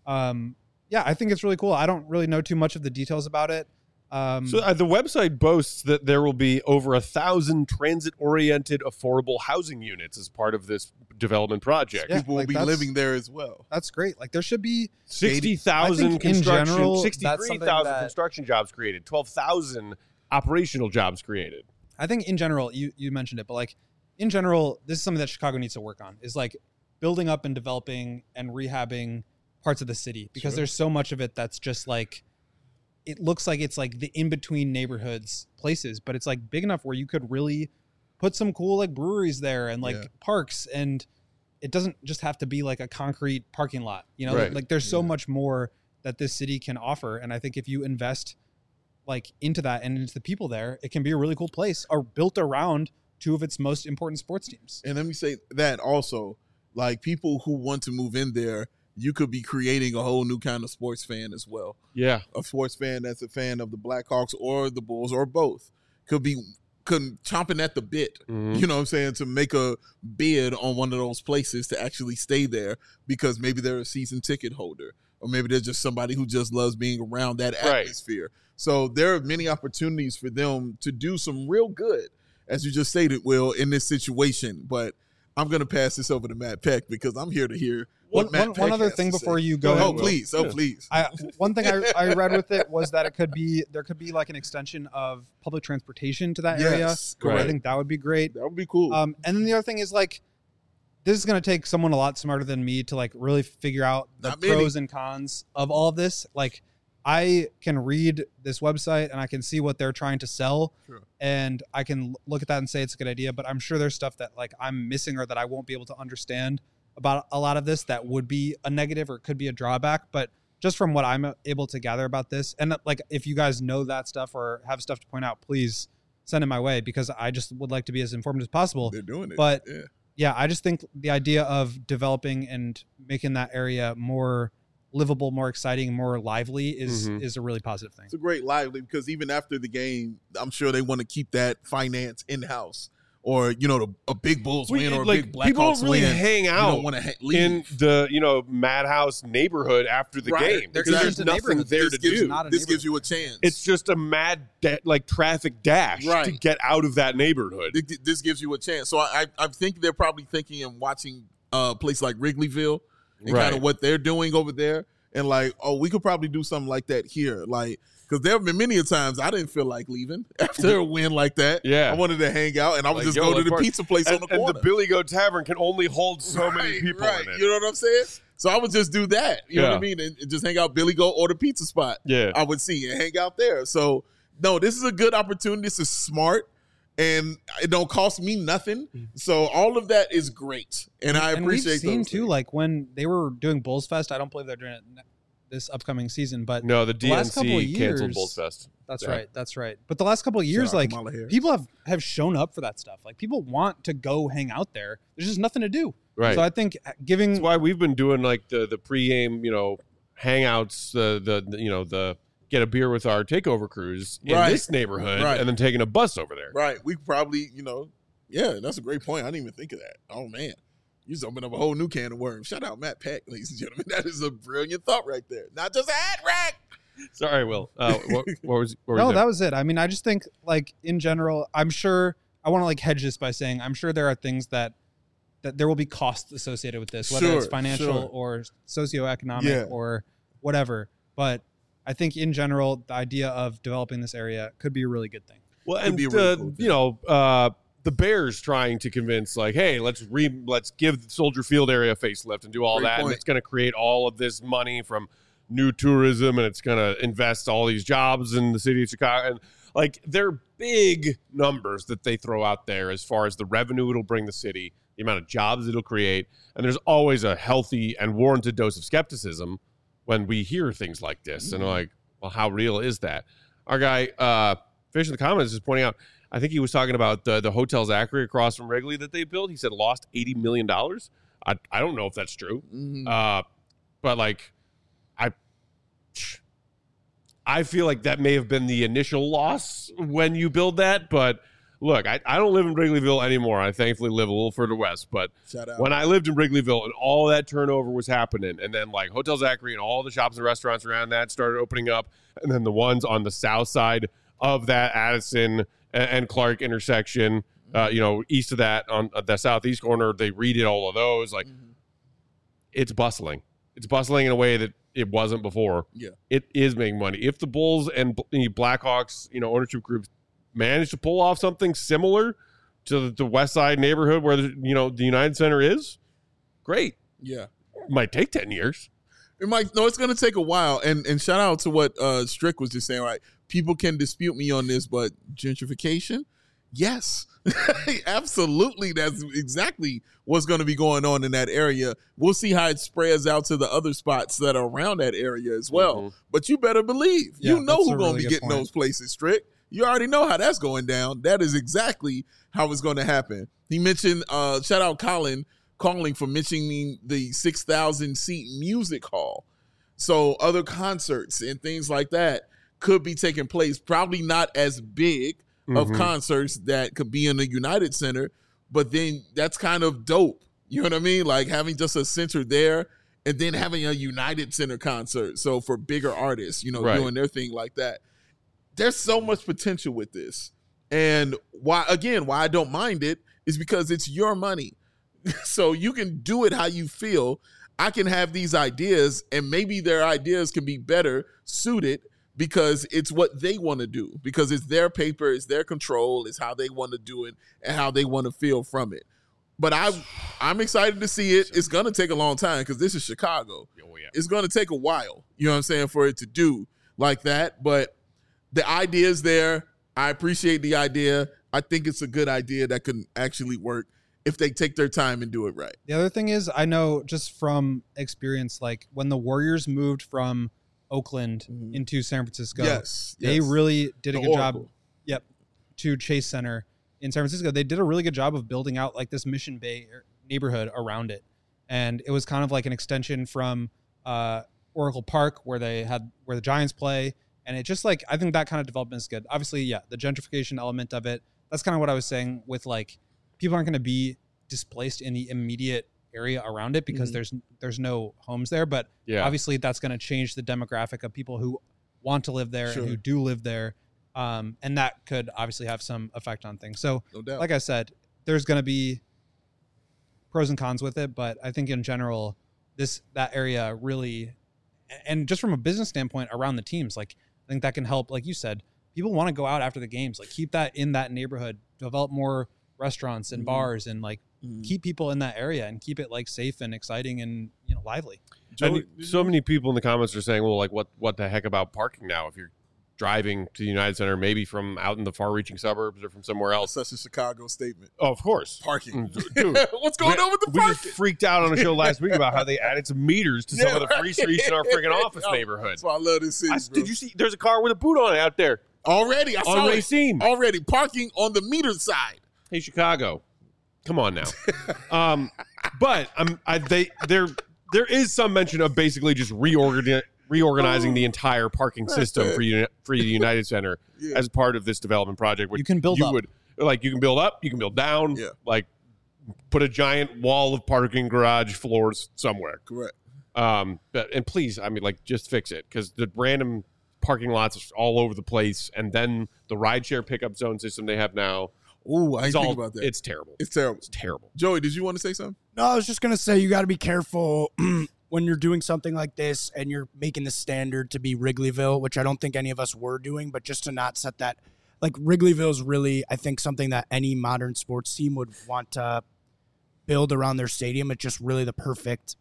yeah, I think it's really cool. I don't really know too much of the details about it. So the website boasts that there will be over 1,000 transit-oriented affordable housing units as part of this development project. Yeah, People will like be that's- living there as well. That's great. Like, there should be 60,000 I think in construction, general, that's something 63,000 that- construction jobs created, 12,000 operational jobs created. I think in general, you mentioned it, but like in general, this is something that Chicago needs to work on, is like building up and developing and rehabbing parts of the city, because there's so much of it that's just like, it looks like it's like the in-between neighborhoods places, but it's like big enough where you could really put some cool like breweries there and like Yeah. parks, and it doesn't just have to be like a concrete parking lot, you know, Right. like there's so much more that this city can offer. And I think if you invest like into that and into the people there, it can be a really cool place, or built around two of its most important sports teams. And let me say that also, like people who want to move in there, you could be creating a whole new kind of sports fan as well. Yeah. A sports fan that's a fan of the Blackhawks or the Bulls or both could be chomping at the bit, Mhm. you know what I'm saying, to make a bid on one of those places to actually stay there, because maybe they're a season ticket holder, or maybe they're just somebody who just loves being around that Right. atmosphere. So there are many opportunities for them to do some real good, as you just stated, Will, in this situation. But I'm going to pass this over to Matt Peck, because I'm here to hear what Matt Peck One other has thing to before say. you go Oh, ahead, please. Oh, please. one thing I read with it was that there could be like an extension of public transportation to that area. Yes, I correct. think that would be great. That would be cool. And then the other thing is like, this is going to take someone a lot smarter than me to like really figure out the Not many. pros and cons of all of this. Like, I can read this website and I can see what they're trying to sell, Sure. and I can look at that and say it's a good idea, but I'm sure there's stuff that like I'm missing or that I won't be able to understand about a lot of this that would be a negative or could be a drawback. But just from what I'm able to gather about this, and like if you guys know that stuff or have stuff to point out, please send it my way, because I just would like to be as informed as possible. They're doing it. But yeah, I just think the idea of developing and making that area more livable, more exciting, more lively is a really positive thing. It's a great lively, because even after the game, I'm sure they want to keep that finance in-house. Or, a big Bulls win or a big Blackhawks people don't really win. hang You out don't want to leave. in the Madhouse neighborhood after the Right. game. They're Because just there's a nothing neighborhood. there to do. This gives you a chance. It's just a mad traffic dash Right. to get out of that neighborhood. This gives you a chance. So I think they're probably thinking and watching a place like Wrigleyville and kind of what they're doing over there. And like, oh, we could probably do something like that here. Like, because there have been many a times I didn't feel like leaving after a win like that. Yeah. I wanted to hang out, and I would Like, just go to the let's pizza place on the corner. And the Billy Goat Tavern can only hold so many people in it. You know what I'm saying? So I would just do that. You know what I Yeah. mean? And just hang out Billy Goat or the pizza spot. Yeah. I would see and hang out there. So no, this is a good opportunity. This is smart. And it don't cost me nothing. So all of that is great. And I appreciate we've seen those too, things. like when they were doing Bulls Fest, I don't believe they're doing it this upcoming season, but No, the last couple of DNC canceled years- Bulls Fest. That's Yeah. right. That's right. But the last couple of years, Shout out like Kamala Harris. people have shown up for that stuff. Like people want to go hang out there. There's just nothing to do. Right. So I think giving That's why we've been doing like the pregame, hangouts, the get a beer with our takeover crews in Right. this neighborhood, Right. and then taking a bus over there. Right. We probably, yeah, that's a great point. I didn't even think of that. Oh, man. You just opened up a whole new can of worms. Shout out Matt Peck, ladies and gentlemen. That is a brilliant thought right there. Not just a hat rack. Sorry, Will. What was no, that was it. I mean, I just think like in general, I'm sure I want to like hedge this by saying I'm sure there are things that there will be costs associated with this, whether it's Sure, financial sure. or socioeconomic Yeah. or whatever. But I think in general, the idea of developing this area could be a really good thing. Well, Could and be a really cool thing. the Bears trying to convince like, hey, let's give the Soldier Field area a facelift and do all Great that, point. and it's going to create all of this money from new tourism, and it's going to invest all these jobs in the city of Chicago, and like they're big numbers that they throw out there as far as the revenue it'll bring the city, the amount of jobs it'll create, and there's always a healthy and warranted dose of skepticism when we hear things like this, and like, well, how real is that? Our guy, Fish in the comments is pointing out, I think he was talking about the Hotel Zachary across from Wrigley that they built. He said lost $80 million. I don't know if that's true. But like, I feel like that may have been the initial loss when you build that. But look, I don't live in Wrigleyville anymore. I thankfully live a little further west. But Shout out. when I lived in Wrigleyville and all that turnover was happening, and then like Hotel Zachary and all the shops and restaurants around that started opening up, and then the ones on the south side of that Addison and Clark intersection, east of that on the southeast corner, they redid all of those. Like, it's bustling. It's bustling in a way that it wasn't before. Yeah. It is making money. If the Bulls and Blackhawks, ownership groups manage to pull off something similar to the West Side neighborhood where the United Center is, great. Yeah. It might take 10 years. It's going to take a while. And shout out to what Strick was just saying, right? People can dispute me on this, but gentrification, yes, absolutely. That's exactly what's going to be going on in that area. We'll see how it spreads out to the other spots that are around that area as well. But you better believe, Yeah, you know that's who's a going to really be good getting point. those places, Strick. You already know how that's going down. That is exactly how it's going to happen. He mentioned, shout out Colin, calling for mentioning the 6,000 seat music hall. So other concerts and things like that could be taking place, probably not as big of concerts that could be in the United Center, but then that's kind of dope. You know what I mean? Like having just a center there and then having a United Center concert. So for bigger artists, Right. doing their thing like that. There's so much potential with this. And why I don't mind it is because it's your money. So you can do it how you feel. I can have these ideas and maybe their ideas can be better suited because it's what they want to do, because it's their paper, it's their control, it's how they want to do it and how they want to feel from it. But I'm excited to see it. It's going to take a long time because this is Chicago. Oh, yeah. It's going to take a while, you know what I'm saying, for it to do like that. But the idea is there. I appreciate the idea. I think it's a good idea that can actually work. if they take their time and do it right. The other thing is, I know just from experience, like when the Warriors moved from Oakland into San Francisco, they really did a good job. Yep, to Chase Center in San Francisco, they did a really good job of building out like this Mission Bay neighborhood around it, and it was kind of like an extension from Oracle Park where the Giants play, and it just like I think that kind of development is good. Obviously, yeah, the gentrification element of it. That's kind of what I was saying with like people aren't going to be displaced in the immediate area around it because there's no homes there, but obviously that's going to change the demographic of people who want to live there and who do live there, and that could obviously have some effect on things. So like I said, there's going to be pros and cons with it, but I think in general that area really, and just from a business standpoint around the teams, like I think that can help. Like you said, people want to go out after the games, like keep that in that neighborhood, develop more restaurants and bars, and like keep people in that area and keep it like safe and exciting and lively. And so many people in the comments are saying, well, like what the heck about parking now? If you're driving to the United Center, maybe from out in the far-reaching suburbs or from somewhere else. That's such a Chicago statement. Oh, of course. Parking. Dude, what's going on with the parking? We just freaked out on a show last week about how they added some meters to some of the free streets in our freaking office neighborhood. That's why I love this city, Did you see? There's a car with a boot on it out there. Already. I saw Racine. Already. Parking on the meter side. Hey, Chicago. Come on now. But there is some mention of basically just reorganizing the entire parking system for the United Center as part of this development project. You can build up. You can build up, you can build down, like put a giant wall of parking garage floors somewhere. Correct. And please, I mean, like just fix it because the random parking lots are all over the place. And then the rideshare pickup zone system they have now. Oh, I didn't think about that. It's terrible. It's terrible. It's terrible. Joey, did you want to say something? No, I was just going to say you got to be careful when you're doing something like this and you're making the standard to be Wrigleyville, which I don't think any of us were doing, but just to not set that. Like Wrigleyville is really, I think, something that any modern sports team would want to build around their stadium. It's just really the perfect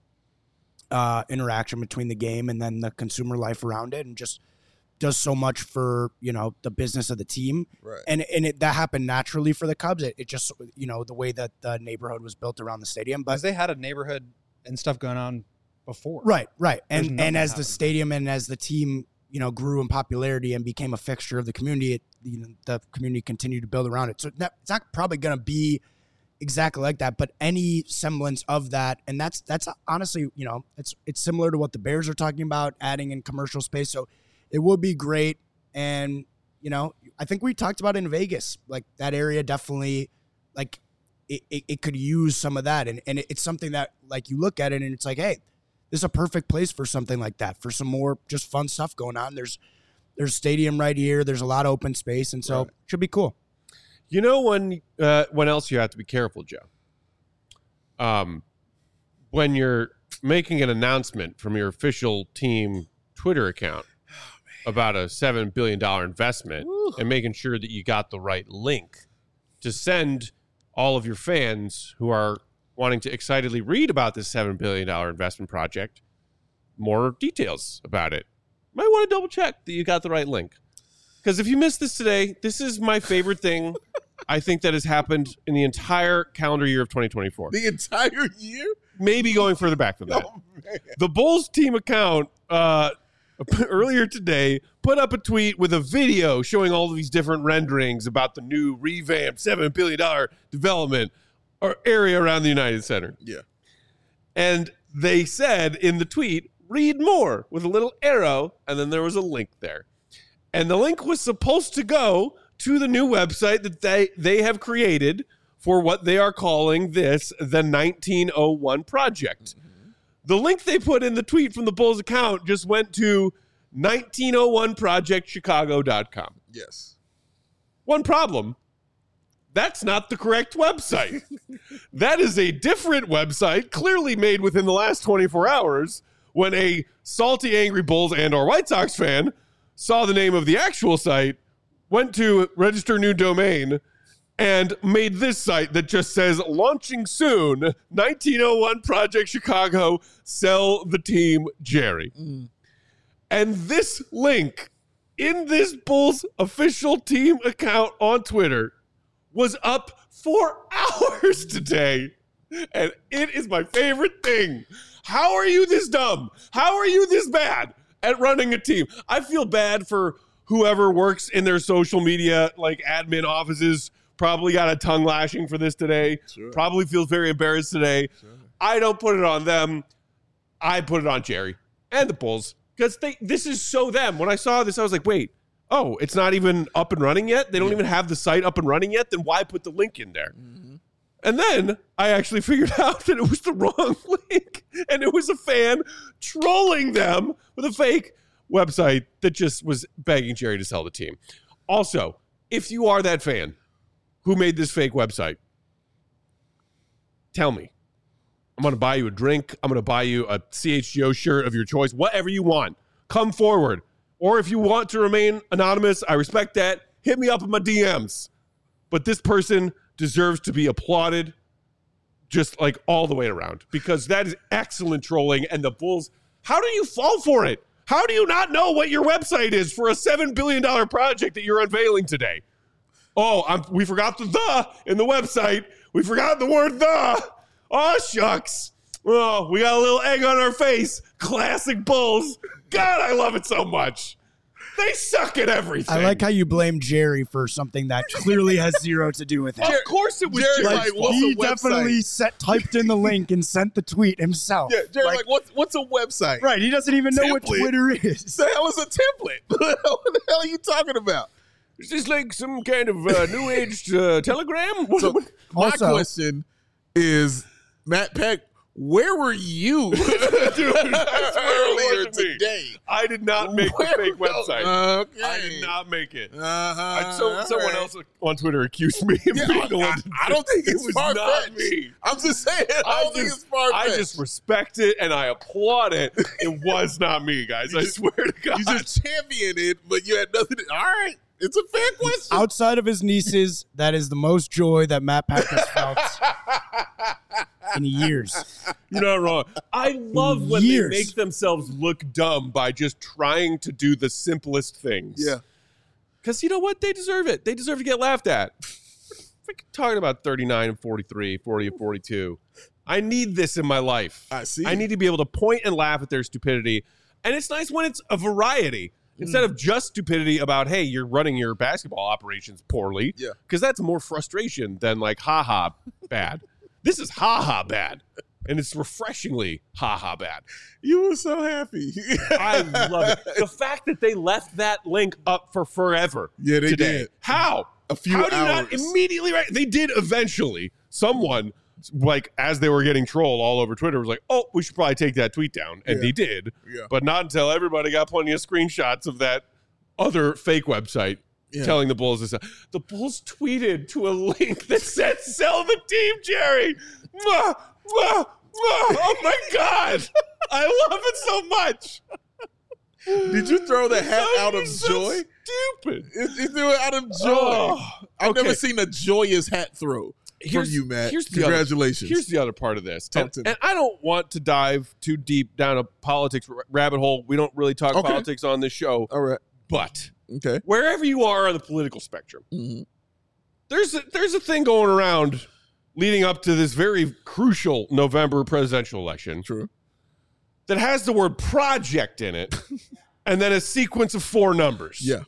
interaction between the game and then the consumer life around it, and just does so much for, the business of the team. Right. And that happened naturally for the Cubs. It just, the way that the neighborhood was built around the stadium. But because they had a neighborhood and stuff going on before. Right. And as the stadium and as the team, grew in popularity and became a fixture of the community, the community continued to build around it. So it's not probably going to be exactly like that, but any semblance of that. And that's honestly, it's similar to what the Bears are talking about, adding in commercial space. So it would be great. And, I think we talked about in Vegas, like that area definitely, like it could use some of that. And it's something that like you look at it and it's like, hey, this is a perfect place for something like that, for some more just fun stuff going on. There's stadium right here. There's a lot of open space. And so it should be cool. When else you have to be careful, Joe? When you're making an announcement from your official team Twitter account about a $7 billion investment and making sure that you got the right link to send all of your fans who are wanting to excitedly read about this $7 billion investment project more details about it. Might want to double check that you got the right link. Because if you missed this today, this is my favorite thing I think that has happened in the entire calendar year of 2024. The entire year? Maybe going further back than that. Oh, man. The Bulls team account earlier today put up a tweet with a video showing all of these different renderings about the new revamped $7 billion development or area around the United Center. Yeah. And they said in the tweet, read more, with a little arrow, and then there was a link there. And the link was supposed to go to the new website that they have created for what they are calling this, the 1901 Project. Mm-hmm. The link they put in the tweet from the Bulls account just went to 1901projectchicago.com. Yes. One problem. That's not the correct website. That is a different website, clearly made within the last 24 hours, when a salty, angry Bulls and or White Sox fan saw the name of the actual site, went to register new domain, and made this site that just says, launching soon, 1901 Project Chicago, sell the team, Jerry. Mm. And this link in this Bulls official team account on Twitter was up for hours today, and it is my favorite thing. How are you this dumb? How are you this bad at running a team? I feel bad for whoever works in their social media, like admin offices, probably got a tongue lashing for this today. Sure. Probably feels very embarrassed today. Sure. I don't put it on them. I put it on Jerry and the Bulls because this is so them. When I saw this, I was like, wait, oh, it's not even up and running yet? They don't even have the site up and running yet? Then why put the link in there? Mm-hmm. And then I actually figured out that it was the wrong link. And it was a fan trolling them with a fake website that just was begging Jerry to sell the team. Also, if you are that fan who made this fake website, tell me. I'm going to buy you a drink. I'm going to buy you a CHGO shirt of your choice, whatever you want. Come forward. Or if you want to remain anonymous, I respect that. Hit me up in my DMs. But this person deserves to be applauded just like all the way around because that is excellent trolling. And the Bulls, how do you fall for it? How do you not know what your website is for a $7 billion project that you're unveiling today? Oh, we forgot the in the website. We forgot the word the. Oh, shucks. Oh, we got a little egg on our face. Classic Bulls. God, I love it so much. They suck at everything. I like how you blame Jerry for something that clearly has zero to do with it. Of course it was Jerry. Jerry's Like, he definitely typed in the link and sent the tweet himself. Yeah, Jerry, like what's a website? Right, he doesn't even know what Twitter is. The hell is a template? What the hell are you talking about? Is this like some kind of new age telegram? So my question is, Matt Peck, where were you earlier today? I did not make the fake website. Okay. I did not make it. Uh-huh. Someone else on Twitter accused me of being the one. I don't think it was not far-fetched. me. I'm just saying. I don't think it's far-fetched. I just respect it and I applaud it. It was not me, guys. I swear to God. You just championed it, but you had nothing to... All right. It's a fair question. Outside of his nieces, that is the most joy that Matt Peck has felt in years. You're not wrong. I love when they make themselves look dumb by just trying to do the simplest things. Yeah. Because you know what? They deserve it. They deserve to get laughed at. Freaking talking about 39 and 43, 40 and 42. I need this in my life. I see. I need to be able to point and laugh at their stupidity. And it's nice when it's a variety. Instead of just stupidity about, hey, you're running your basketball operations poorly. Yeah. Because that's more frustration than like, ha-ha, bad. This is ha-ha bad. And it's refreshingly ha-ha bad. You were so happy. I love it. The fact that they left that link up for forever. Yeah, they today. did. How? A few hours. How do you not immediately right? They did eventually. Someone, like, as they were getting trolled all over Twitter, was like, oh, we should probably take that tweet down. And they did. Yeah. But not until everybody got plenty of screenshots of that other fake website telling the Bulls this. The Bulls tweeted to a link that said, sell the team, Jerry. Mwah, mwah, mwah. Oh, my God. I love it so much. Did you throw the hat out of joy? Stupid. You threw it out of joy. I've never seen a joyous hat throw. From you, Matt. Congratulations. Here's the other part of this. And I don't want to dive too deep down a politics rabbit hole. We don't really talk politics on this show. All right. But wherever you are on the political spectrum, there's a thing going around leading up to this very crucial November presidential election. True. That has the word project in it and then a sequence of 4 numbers. Yeah.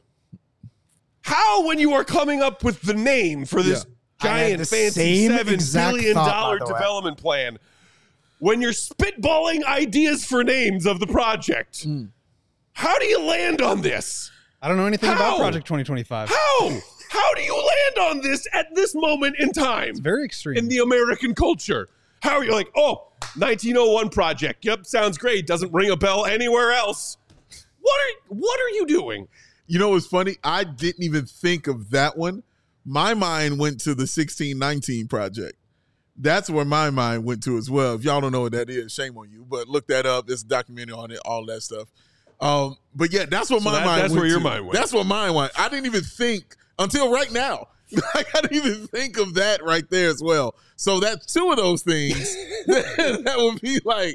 How, when you are coming up with the name for this giant, fancy $7 billion development plan, when you're spitballing ideas for names of the project, how do you land on this? I don't know anything about Project 2025. How do you land on this at this moment in time? It's very extreme. In the American culture. How are you like, 1901 project. Yep, sounds great. Doesn't ring a bell anywhere else. What are you doing? You know what's funny? I didn't even think of that one. My mind went to the 1619 project. That's where my mind went to as well. If y'all don't know what that is, shame on you. But look that up. There's a documentary on it, all that stuff. But yeah, that's what my mind went to. That's where your mind went. That's what mine went. I didn't even think until right now. I didn't even think of that right there as well. So that's 2 of those things that would be like,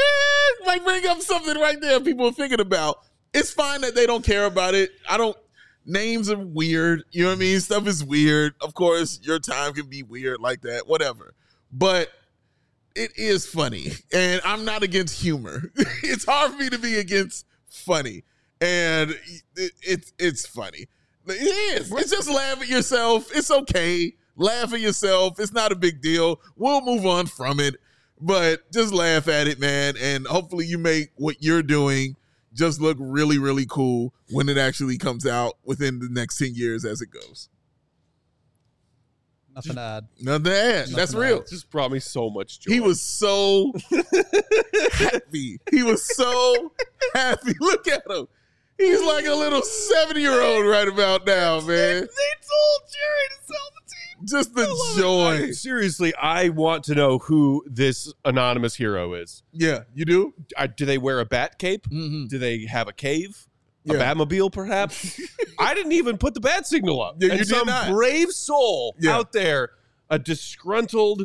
might bring up something right there people are thinking about. It's fine that they don't care about it. names are weird. You know what I mean? Stuff is weird. Of course, your time can be weird like that, whatever. But it is funny. And I'm not against humor. It's hard for me to be against funny. And it's funny. It is. It's just laugh at yourself. It's okay. Laugh at yourself. It's not a big deal. We'll move on from it. But just laugh at it, man. And hopefully you make what you're doing just look really, really cool when it actually comes out within the next 10 years as it goes. Nothing to add. Nothing to add. That's real. It just brought me so much joy. He was so happy. He was so happy. Look at him. He's like a little 70-year-old right about now, man. They told Jerry to sell the team. Just the joy. Seriously, I want to know who this anonymous hero is. Yeah, you do? Do they wear a bat cape? Mm-hmm. Do they have a cave? A Yeah. Batmobile, perhaps? I didn't even put the bat signal up. Yeah, and you did some not. brave soul out there, a disgruntled,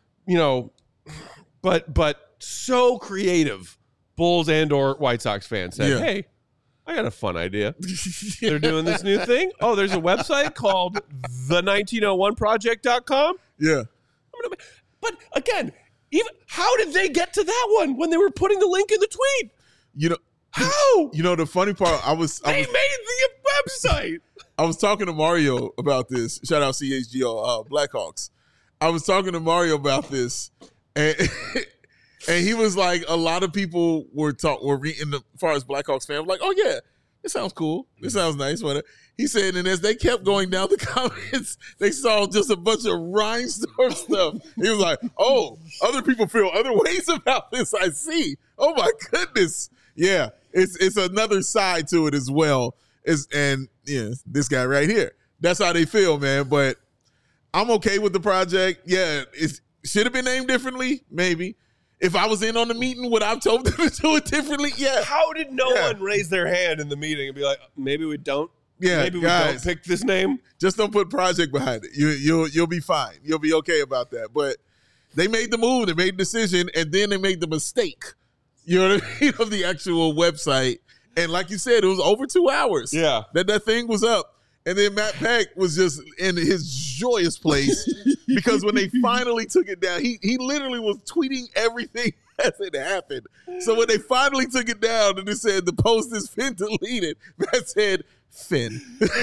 but so creative Bulls and or White Sox fan said, hey, I got a fun idea. They're doing this new thing. Oh, there's a website called the1901project.com. Yeah. But again, even how did they get to that one when they were putting the link in the tweet? You know, how? You know, the funny part, They made the website. I was talking to Mario about this. Shout out CHGO Blackhawks. I was talking to Mario about this, and and he was like, a lot of people were reading as far as Blackhawks fans, like, oh yeah, it sounds cool, it sounds nice, whatever. He said, and as they kept going down the comments, they saw just a bunch of rhinestone stuff. He was like, oh, other people feel other ways about this. I see. Oh my goodness, yeah, it's another side to it as well. And this guy right here, that's how they feel, man. But I'm okay with the project. Yeah, it should have been named differently, maybe. If I was in on the meeting, would I have told them to do it differently? Yeah. How did no one raise their hand in the meeting and be like, maybe we don't? Yeah, maybe we guys, don't pick this name. Just don't put project behind it. You'll be fine. You'll be okay about that. But they made the move, they made the decision, and then they made the mistake. You know what I mean? Of the actual website. And like you said, it was over 2 hours. Yeah. That thing was up. And then Matt Peck was just in his joyous place because when they finally took it down, he literally was tweeting everything as it happened. So when they finally took it down and it said the post is Finn deleted, Matt said Finn.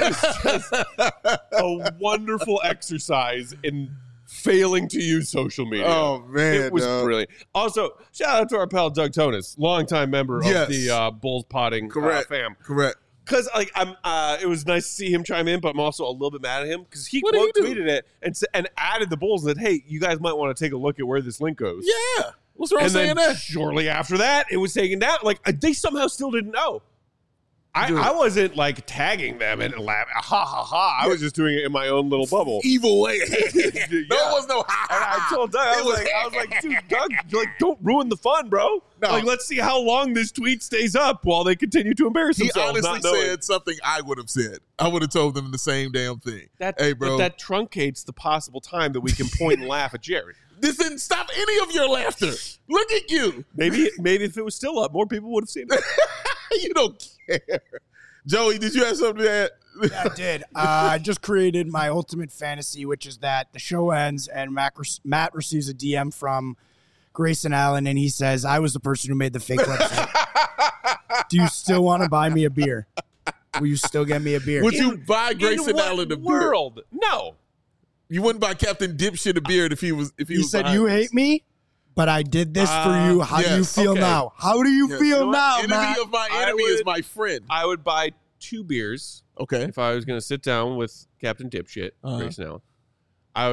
A wonderful exercise in failing to use social media. Oh, man. It was brilliant. Also, shout out to our pal Doug Tonis, longtime member of the Bulls Potting fam. Correct. Because it was nice to see him chime in, but I'm also a little bit mad at him because he What did he do? tweeted it and added the Bulls that, hey, you guys might want to take a look at where this link goes. Yeah. What's wrong And saying then that? shortly after that, it was taken down. Like they somehow still didn't know. I wasn't like tagging them and laughing. Ha ha ha! I was just doing it in my own little bubble. Evil way. No, it was no ha. And I told Doug, I was like, dude, Doug, don't ruin the fun, bro. No. Like, let's see how long this tweet stays up while they continue to embarrass He themselves. honestly said something I would have said. I would have told them the same damn thing. Hey, bro. But that truncates the possible time that we can point and laugh at Jerry. This didn't stop any of your laughter. Look at you. Maybe if it was still up, more people would have seen it. You don't care. Joey, did you have something to add? Yeah, I did. I just created my ultimate fantasy, which is that the show ends and Matt receives a DM from Grayson Allen, and he says, I was the person who made the fake website. Do you still want to buy me a beer? Will you still get me a beer? Would you buy Grayson Allen a beer? World? No. You wouldn't buy Captain Dipshit a beer if he was He said, behind you this. hate me, but I did this for you. How do you yes, feel okay. now? How do you Yes. feel You know what? now, Enemy Matt? of my enemy is my friend. I would buy 2 beers Okay. if I was going to sit down with Captain Dipshit, Grayson Allen. I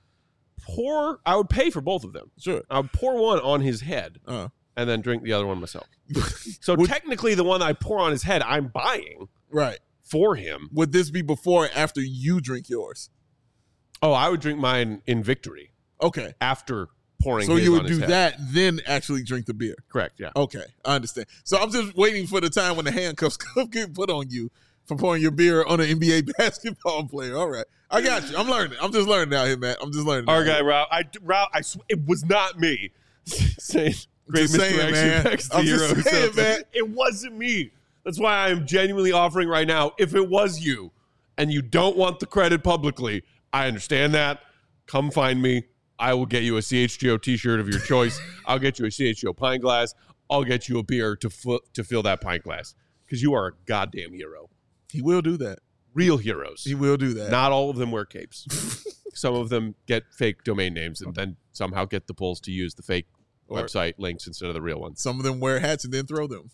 would pay for both of them. Sure. I would pour one on his head and then drink the other one myself. So technically the one I pour on his head, I'm buying Right. for him. Would this be before or after you drink yours? Oh, I would drink mine in victory Okay. after pouring So his you would on his do head. that, then actually drink the beer. Correct, yeah. Okay, I understand. So I'm just waiting for the time when the handcuffs get put on you for pouring your beer on an NBA basketball player. All right, I got you. I'm learning. I'm just learning out here, man. I'm just learning. Our guy, Rob, it was not me saying great Just saying, misdirection man. back to the I'm hero. just saying, man. It wasn't me. That's why I'm genuinely offering right now. If it was you and you don't want the credit publicly, I understand that. Come find me. I will get you a CHGO t-shirt of your choice. I'll get you a CHGO pint glass. I'll get you a beer to fill that pint glass because you are a goddamn hero. He will do that. Real heroes. He will do that. Not all of them wear capes. Some of them get fake domain names and then somehow get the polls to use the fake website links instead of the real ones. Some of them wear hats and then throw them.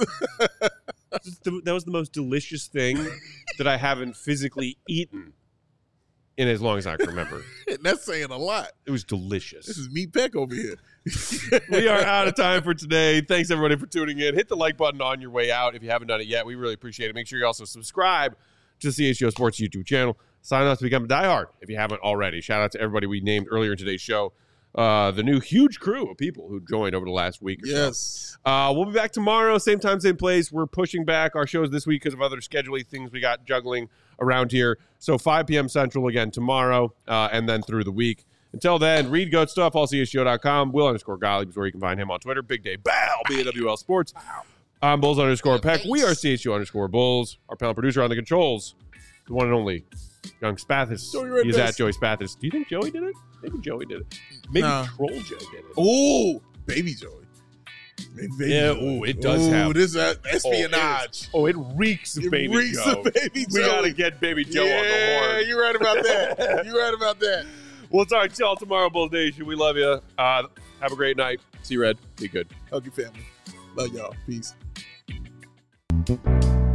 That was the most delicious thing that I haven't physically eaten in as long as I can remember. That's saying a lot. It was delicious. This is Meat Peck over here. We are out of time for today. Thanks, everybody, for tuning in. Hit the like button on your way out if you haven't done it yet. We really appreciate it. Make sure you also subscribe to the CHGO Sports YouTube channel. Sign up to become a diehard if you haven't already. Shout out to everybody we named earlier in today's show. The new huge crew of people who joined over the last week or Yes. so. We'll be back tomorrow, same time, same place. We're pushing back our shows this week because of other scheduling things we got juggling around here. So 5 p.m. Central again tomorrow, and then through the week. Until then, read Goat Stuff, allchgo.com. Will_Gottlieb is where you can find him on Twitter. Big Day Bow, BAWL Sports. I'm Bulls_Peck. We are CHGO_Bulls. Our panel producer on the controls, the one and only Young Spathis. He's at Joey Spathis. Do you think Joey did it? Maybe Joey did it. Maybe Troll Joe did it. Oh, Baby Joey. Baby Joey. It does have. This is espionage. It reeks of Baby Joe. Baby We got to get Baby Joe on the horn. Yeah, you're right about that. You're right about that. We'll talk to y'all tomorrow, Bulls Nation. We love you. Have a great night. See you, Red. Be good. Hug your family. Love y'all. Peace.